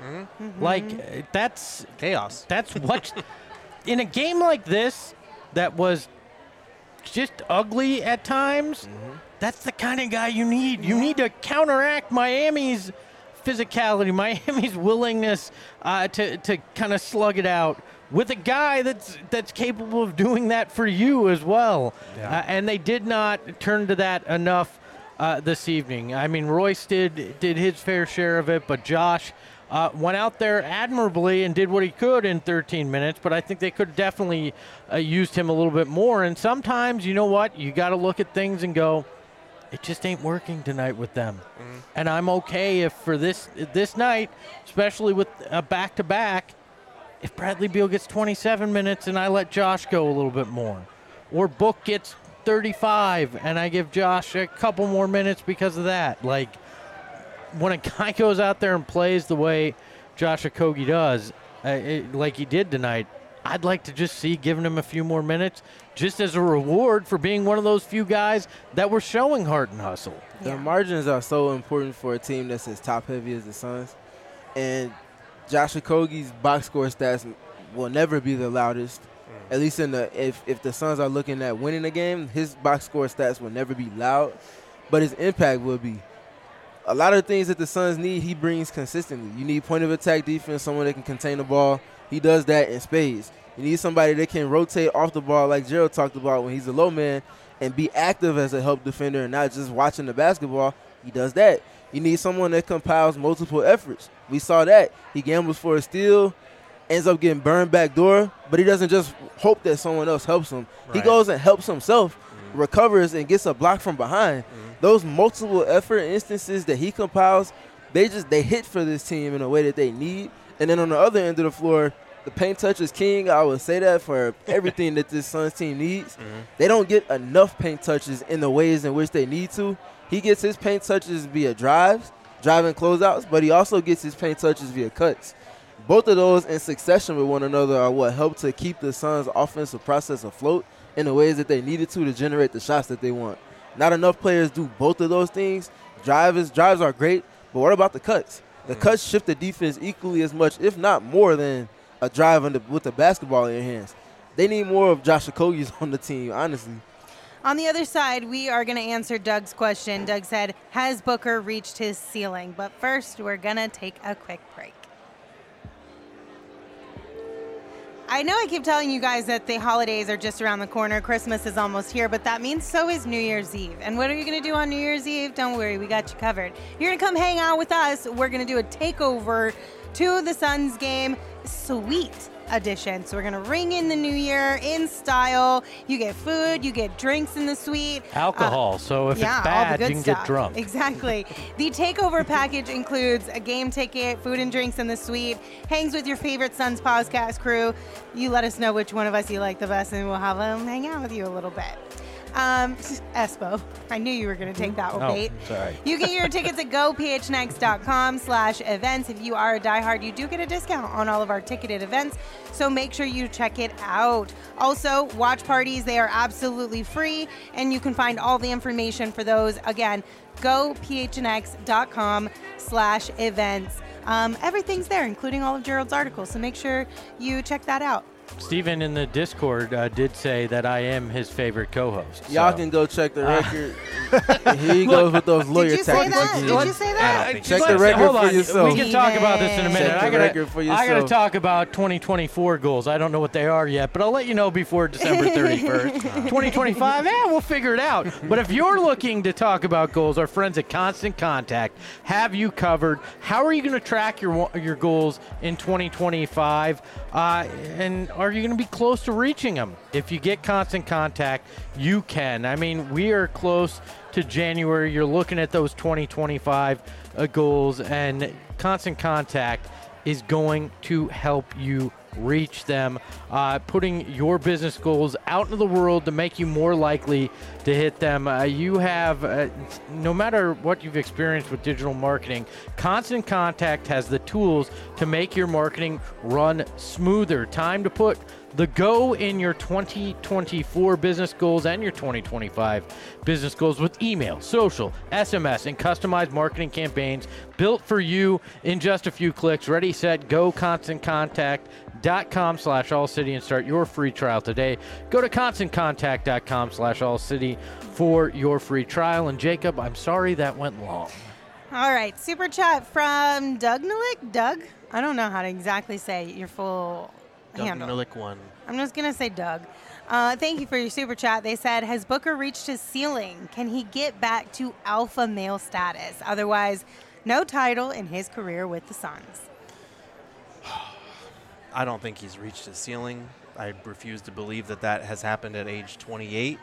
that's chaos. That's what in a game like this that was just ugly at times, that's the kind of guy you need. You need to counteract Miami's physicality, Miami's willingness to kind of slug it out with a guy that's capable of doing that for you as well. Yeah. And they did not turn to that enough this evening. I mean, Royce did his fair share of it, but Josh went out there admirably and did what he could in 13 minutes, but I think they could definitely used him a little bit more. And sometimes, you know what, you got to look at things and go, it just ain't working tonight with them. And I'm okay if for this night, especially with a back-to-back, if Bradley Beal gets 27 minutes and I let Josh go a little bit more, or Book gets 35 and I give Josh a couple more minutes because of that. When a guy goes out there and plays the way Josh Okogie does, like he did tonight, I'd like to just see giving him a few more minutes just as a reward for being one of those few guys that were showing heart and hustle. The margins are so important for a team that's as top-heavy as the Suns. And Josh Okogie's box score stats will never be the loudest. At least if the Suns are looking at winning a game, his box score stats will never be loud, but his impact will be. A lot of things that the Suns need, he brings consistently. You need point-of-attack defense, someone that can contain the ball. He does that in spades. You need somebody that can rotate off the ball like Gerald talked about when he's a low man and be active as a help defender and not just watching the basketball. He does that. You need someone that compiles multiple efforts. We saw that. He gambles for a steal, ends up getting burned back door, but he doesn't just hope that someone else helps him. Right. He goes and helps himself, recovers, and gets a block from behind. Those multiple effort instances that he compiles, they hit for this team in a way that they need. And then on the other end of the floor, the paint touch is king. I would say that for everything that this Suns team needs. They don't get enough paint touches in the ways in which they need to. He gets his paint touches via driving closeouts, but he also gets his paint touches via cuts. Both of those in succession with one another are what help to keep the Suns' offensive process afloat in the ways that they needed to generate the shots that they want. Not enough players do both of those things. Drives are great, but what about the cuts? The cuts shift the defense equally as much, if not more, than a drive with the basketball in your hands. They need more of Josh Okogie's on the team, honestly. On the other side, we are going to answer Doug's question. Doug said, has Booker reached his ceiling? But first, we're going to take a quick break. I know I keep telling you guys that the holidays are just around the corner. Christmas is almost here, but that means so is New Year's Eve. And what are you going to do on New Year's Eve? Don't worry, we got you covered. You're going to come hang out with us. We're going to do a takeover to the Suns game, Sweet Edition. So we're going to ring in the new year in style. You get food, you get drinks in the suite. Alcohol, so if it's bad, you can get drunk. Exactly. The takeover package includes a game ticket, food and drinks in the suite, hangs with your favorite Suns podcast crew. You let us know which one of us you like the best, and we'll have them hang out with you a little bit. Espo. I knew you were going to take that one, Oh, bait. sorry. You get your tickets at gophnx.com/events. If you are a diehard, you do get a discount on all of our ticketed events, so make sure you check it out. Also, watch parties, they are absolutely free, and you can find all the information for those. Again, gophnx.com/events. Everything's there, including all of Gerald's articles, so make sure you check that out. Steven in the Discord did say that I am his favorite co-host. Y'all so. can go check the record. Here he goes with those lawyer Did you say tactics that? again. Did you say that? Check the record Hold for on. yourself. We can talk about this in a minute. Check the record for I got to yourself. talk about 2024 goals. I don't know what they are yet, but I'll let you know before December 31st. 2025, we'll figure it out. But if you're looking to talk about goals, our friends at Constant Contact have you covered. How are you going to track your goals in 2025? And are you going to be close to reaching them? If you get Constant Contact, you can. I mean, we are close to January. You're looking at those 2025 goals, and Constant Contact is going to help you reach them, putting your business goals out into the world to make you more likely to hit them. You have, no matter what you've experienced with digital marketing, Constant Contact has the tools to make your marketing run smoother. Time to put the go in your 2024 business goals and your 2025 business goals with email, social, SMS, and customized marketing campaigns built for you in just a few clicks. Ready, set, go. ConstantContact.com/AllCity and start your free trial today. Go to ConstantContact.com/AllCity for your free trial. And Jacob, I'm sorry that went long. All right, super chat from Doug Nalik. Doug? I don't know how to exactly say your full handle. Milik one. I'm just going to say Doug. Thank you for your super chat. They said, has Booker reached his ceiling? Can he get back to alpha male status? Otherwise, no title in his career with the Suns. I don't think he's reached his ceiling. I refuse to believe that that has happened at age 28.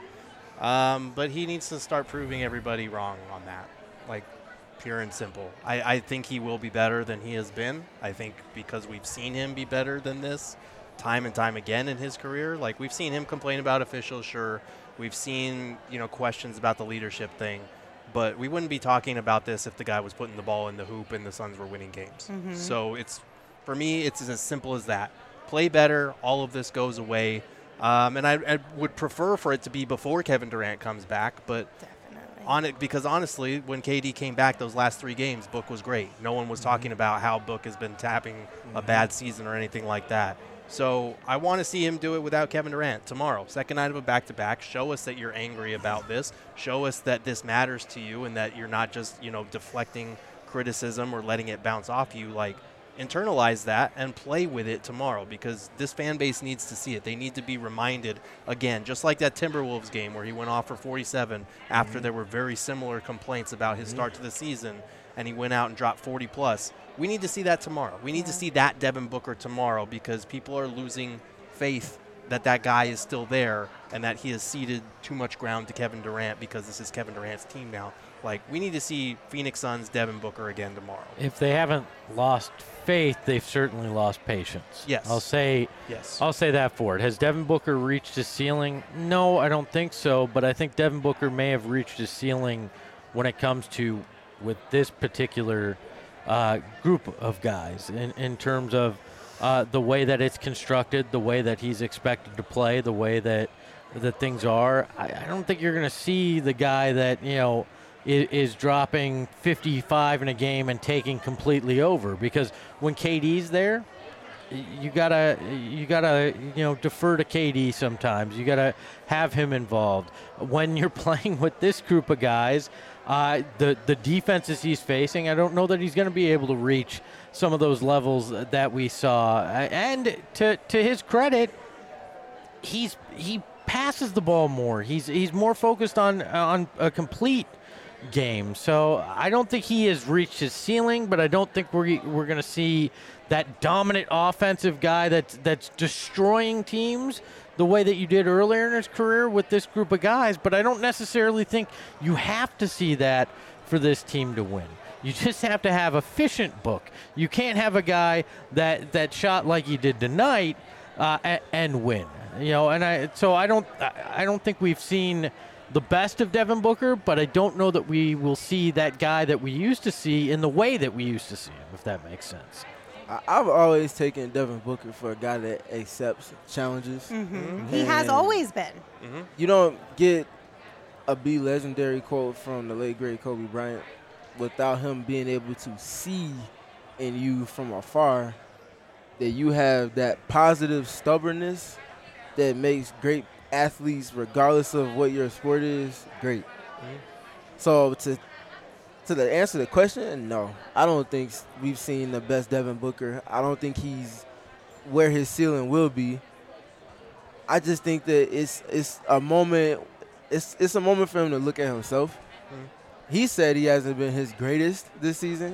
But he needs to start proving everybody wrong on that. Like, pure and simple. I think he will be better than he has been. I think because we've seen him be better than this time and time again in his career. Like, we've seen him complain about officials, sure. We've seen, questions about the leadership thing. But we wouldn't be talking about this if the guy was putting the ball in the hoop and the Suns were winning games. Mm-hmm. So for me, it's as simple as that. Play better. All of this goes away. And I would prefer for it to be before Kevin Durant comes back. But Definitely. because honestly, when KD came back those last 3 games, Book was great. No one was talking about how Book has been tapping a bad season or anything like that. So I want to see him do it without Kevin Durant tomorrow. Second night of a back-to-back. Show us that you're angry about this. Show us that this matters to you and that you're not just, deflecting criticism or letting it bounce off you. Like, internalize that and play with it tomorrow, because this fan base needs to see it. They need to be reminded again, just like that Timberwolves game where he went off for 47 after there were very similar complaints about his start to the season, and he went out and dropped 40 plus. We need to see that tomorrow. We need to see that Devin Booker tomorrow, because people are losing faith that that guy is still there and that he has ceded too much ground to Kevin Durant, because this is Kevin Durant's team now. Like, we need to see Phoenix Suns Devin Booker again tomorrow. If they haven't lost faith, they've certainly lost patience. Yes. I'll say that for it. Has Devin Booker reached his ceiling? No, I don't think so, but I think Devin Booker may have reached his ceiling when it comes to with this particular group of guys in terms of the way that it's constructed, the way that he's expected to play, the way that things are. I don't think you're going to see the guy that, is dropping 55 in a game and taking completely over, because when KD's there, you gotta defer to KD sometimes. You gotta have him involved. When you're playing with this group of guys, the defenses he's facing, I don't know that he's going to be able to reach some of those levels that we saw. And to his credit, he passes the ball more. He's more focused on a complete game. So I don't think he has reached his ceiling, but I don't think we're going to see that dominant offensive guy that's destroying teams the way that you did earlier in his career with this group of guys. But I don't necessarily think you have to see that for this team to win. You just have to have efficient Book. You can't have a guy that shot like he did tonight and win. And I don't think we've seen the best of Devin Booker, but I don't know that we will see that guy that we used to see in the way that we used to see him, if that makes sense. I've always taken Devin Booker for a guy that accepts challenges. He has always been. You don't get a Be Legendary quote from the late, great Kobe Bryant without him being able to see in you from afar that you have that positive stubbornness that makes great athletes, regardless of what your sport is, great. So to the answer to the question, no. I don't think we've seen the best Devin Booker. I don't think he's where his ceiling will be. I just think that it's a moment. It's a moment for him to look at himself. He said he hasn't been his greatest this season.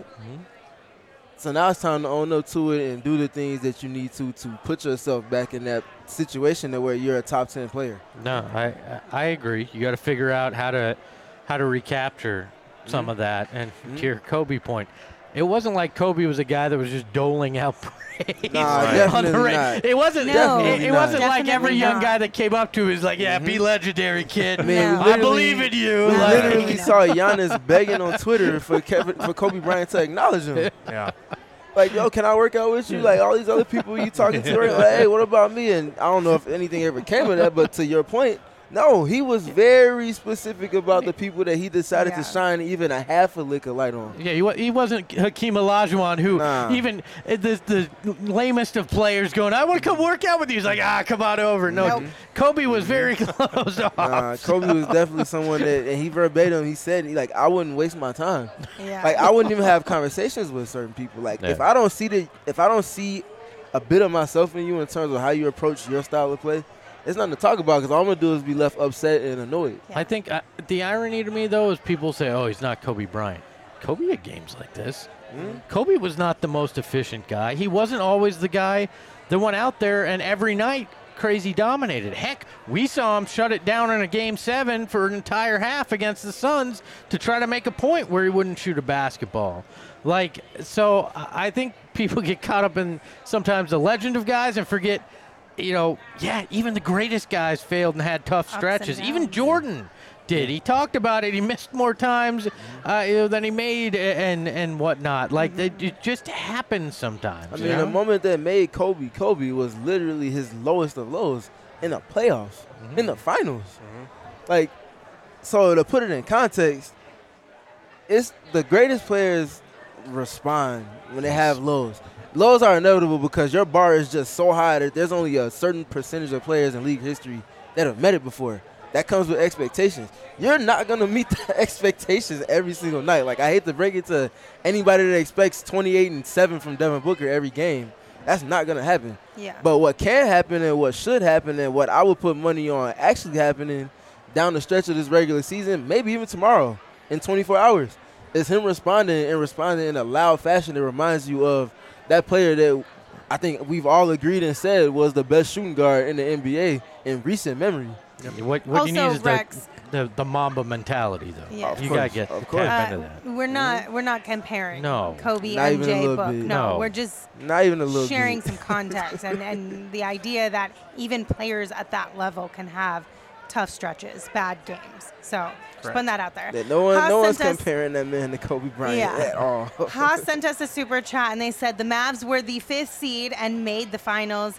So now it's time to own up to it and do the things that you need to put yourself back in that situation to where you're a top 10 player. No, I agree. You got to figure out how to recapture some of that. And to your Kobe point, it wasn't like Kobe was a guy that was just doling out praise. Nah, on the definitely radio. not. It wasn't. No. It wasn't like Definitely every young not. guy that came up to him was like, "Yeah, be legendary, kid. Man, No. we I believe in you." We Like, literally saw Giannis begging on Twitter for Kobe Bryant to acknowledge him. Yeah. Like, yo, can I work out with you? Like, all these other people you talking to, right? Like, hey, what about me? And I don't know if anything ever came of that, but to your point, no, he was very specific about the people that he decided Yeah. to shine even a half a lick of light on. Yeah, he wasn't Hakeem Olajuwon, who Nah. even the lamest of players going, "I want to come work out with you." He's like, come on over. No, Nope. Kobe was very closed off. Kobe was definitely someone that, and he verbatim, he said, I wouldn't waste my time. Yeah. Like, I wouldn't even have conversations with certain people. Like, Yeah. if I don't see a bit of myself in you in terms of how you approach your style of play, it's nothing to talk about because all I'm going to do is be left upset and annoyed. I think the irony to me, though, is people say, "Oh, he's not Kobe Bryant." Kobe had games like this. Kobe was not the most efficient guy. He wasn't always the guy that went out there and every night crazy dominated. Heck, we saw him shut it down in a Game 7 for an entire half against the Suns to try to make a point where he wouldn't shoot a basketball. Like, so I think people get caught up in sometimes the legend of guys and forget, even the greatest guys failed and had tough and stretches. Even downs. Jordan did. He talked about it. He missed more times than he made and whatnot. Like, it just happens sometimes. I mean, the moment that made Kobe was literally his lowest of lows in the playoffs, in the finals. Like, so to put it in context, it's the greatest players respond when they have lows. Lows are inevitable because your bar is just so high that there's only a certain percentage of players in league history that have met it before. That comes with expectations. You're not going to meet the expectations every single night. Like, I hate to break it to anybody that expects 28 and 7 from Devin Booker every game. That's not going to happen. Yeah. But what can happen and what should happen and what I would put money on actually happening down the stretch of this regular season, maybe even tomorrow in 24 hours, is him responding in a loud fashion that reminds you of that player that I think we've all agreed and said was the best shooting guard in the NBA in recent memory. What Also, you need is Rex- the Mamba mentality, though. Yeah. Of You course, got to get of course. tap into that. We're not comparing No. Kobe, Not even a MJ, little Book. bit. No, No. we're just Not even a little sharing bit. some context and the idea that even players at that level can have tough stretches, bad games. So just putting that out there. That no one's sent us- comparing that man to Kobe Bryant Yeah. at all. Haas sent us a super chat and they said the Mavs were the 5th seed and made the finals.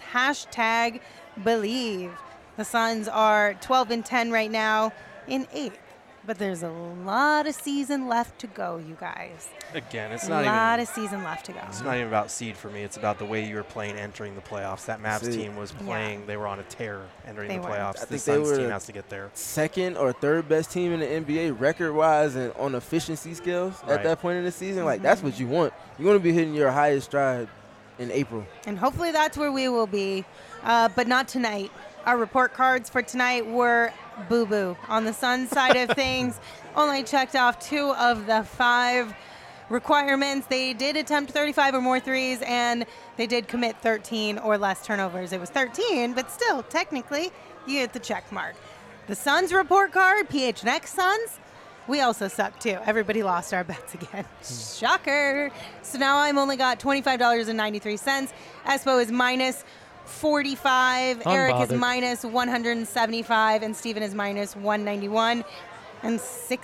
#believe. The Suns are 12-10 right now in 8th. But there's a lot of season left to go, you guys. Again, it's A not lot even. of season left to go. It's not even about seed for me. It's about the way you were playing entering the playoffs. That Mavs See. team was playing. They were on a tear entering They the were. playoffs. I The think they Suns were team the has to get there. Second or third best team in the NBA record-wise and on efficiency scales Right. at that point in the season. Like, that's what you want. You want to be hitting your highest stride in April. And hopefully that's where we will be, but not tonight. Our report cards for tonight were boo-boo. On the Suns side of things, only checked off 2 of the 5 requirements. They did attempt 35 or more threes, and they did commit 13 or less turnovers. It was 13, but still, technically, you get the check mark. The Suns report card, PHNX Suns, we also suck too. Everybody lost our bets again. Shocker. So now I'm only got $25.93. Espo is minus 45. Eric is Unbothered. minus 175, and Steven is minus 191 and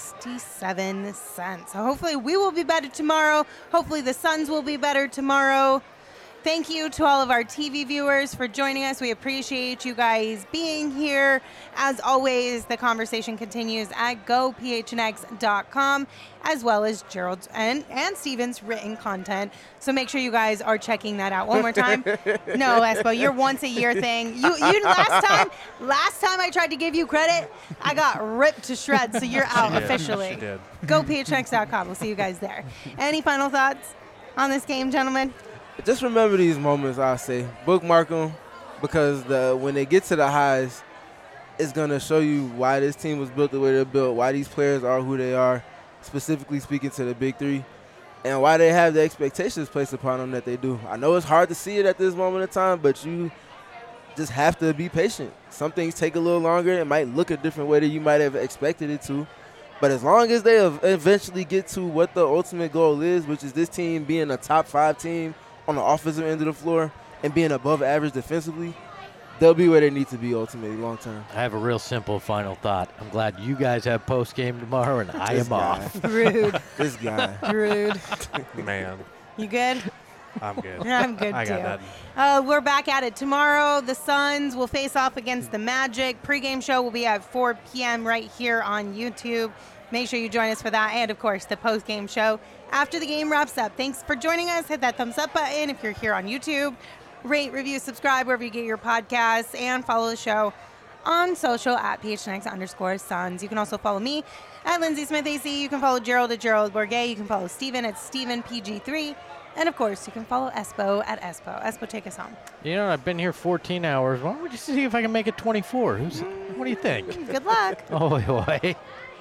67 cents. So hopefully we will be better tomorrow. Hopefully the Suns will be better tomorrow. Thank you to all of our TV viewers for joining us. We appreciate you guys being here. As always, the conversation continues at gophnx.com, as well as Gerald's and Steven's written content. So make sure you guys are checking that out. One more time. No, Espo, your once a year thing. You last time I tried to give you credit, I got ripped to shreds. So you're out officially. She did. Gophnx.com. We'll see you guys there. Any final thoughts on this game, gentlemen? Just remember these moments, I say. Bookmark them, because when they get to the highs, it's going to show you why this team was built the way they're built, why these players are who they are, specifically speaking to the Big Three, and why they have the expectations placed upon them that they do. I know it's hard to see it at this moment in time, but you just have to be patient. Some things take a little longer. It might look a different way than you might have expected it to. But as long as they eventually get to what the ultimate goal is, which is this team being a top 5 team on the offensive end of the floor and being above average defensively, they'll be where they need to be ultimately long term. I have a real simple final thought. I'm glad you guys have post game tomorrow and I am off. Rude. This guy. Rude. Man, You good? I'm good. I'm good I too. got nothing. We're back at it tomorrow. The Suns will face off against the Magic. Pre-game show will be at 4 p.m. right here on YouTube. Make sure you join us for that, and of course the post-game show after the game wraps up. Thanks for joining us. Hit that thumbs up button if you're here on YouTube. Rate, review, subscribe wherever you get your podcasts, and follow the show on social at PHNX_Suns. You can also follow me at Lindsay Smith AC. You can follow Gerald at Gerald Bourget. You can follow Steven at StevenPG3. And of course, you can follow Espo at Espo. Espo, take us home. You know, I've been here 14 hours. Why don't we just see if I can make it 24? What do you think? Good luck. Oh, boy.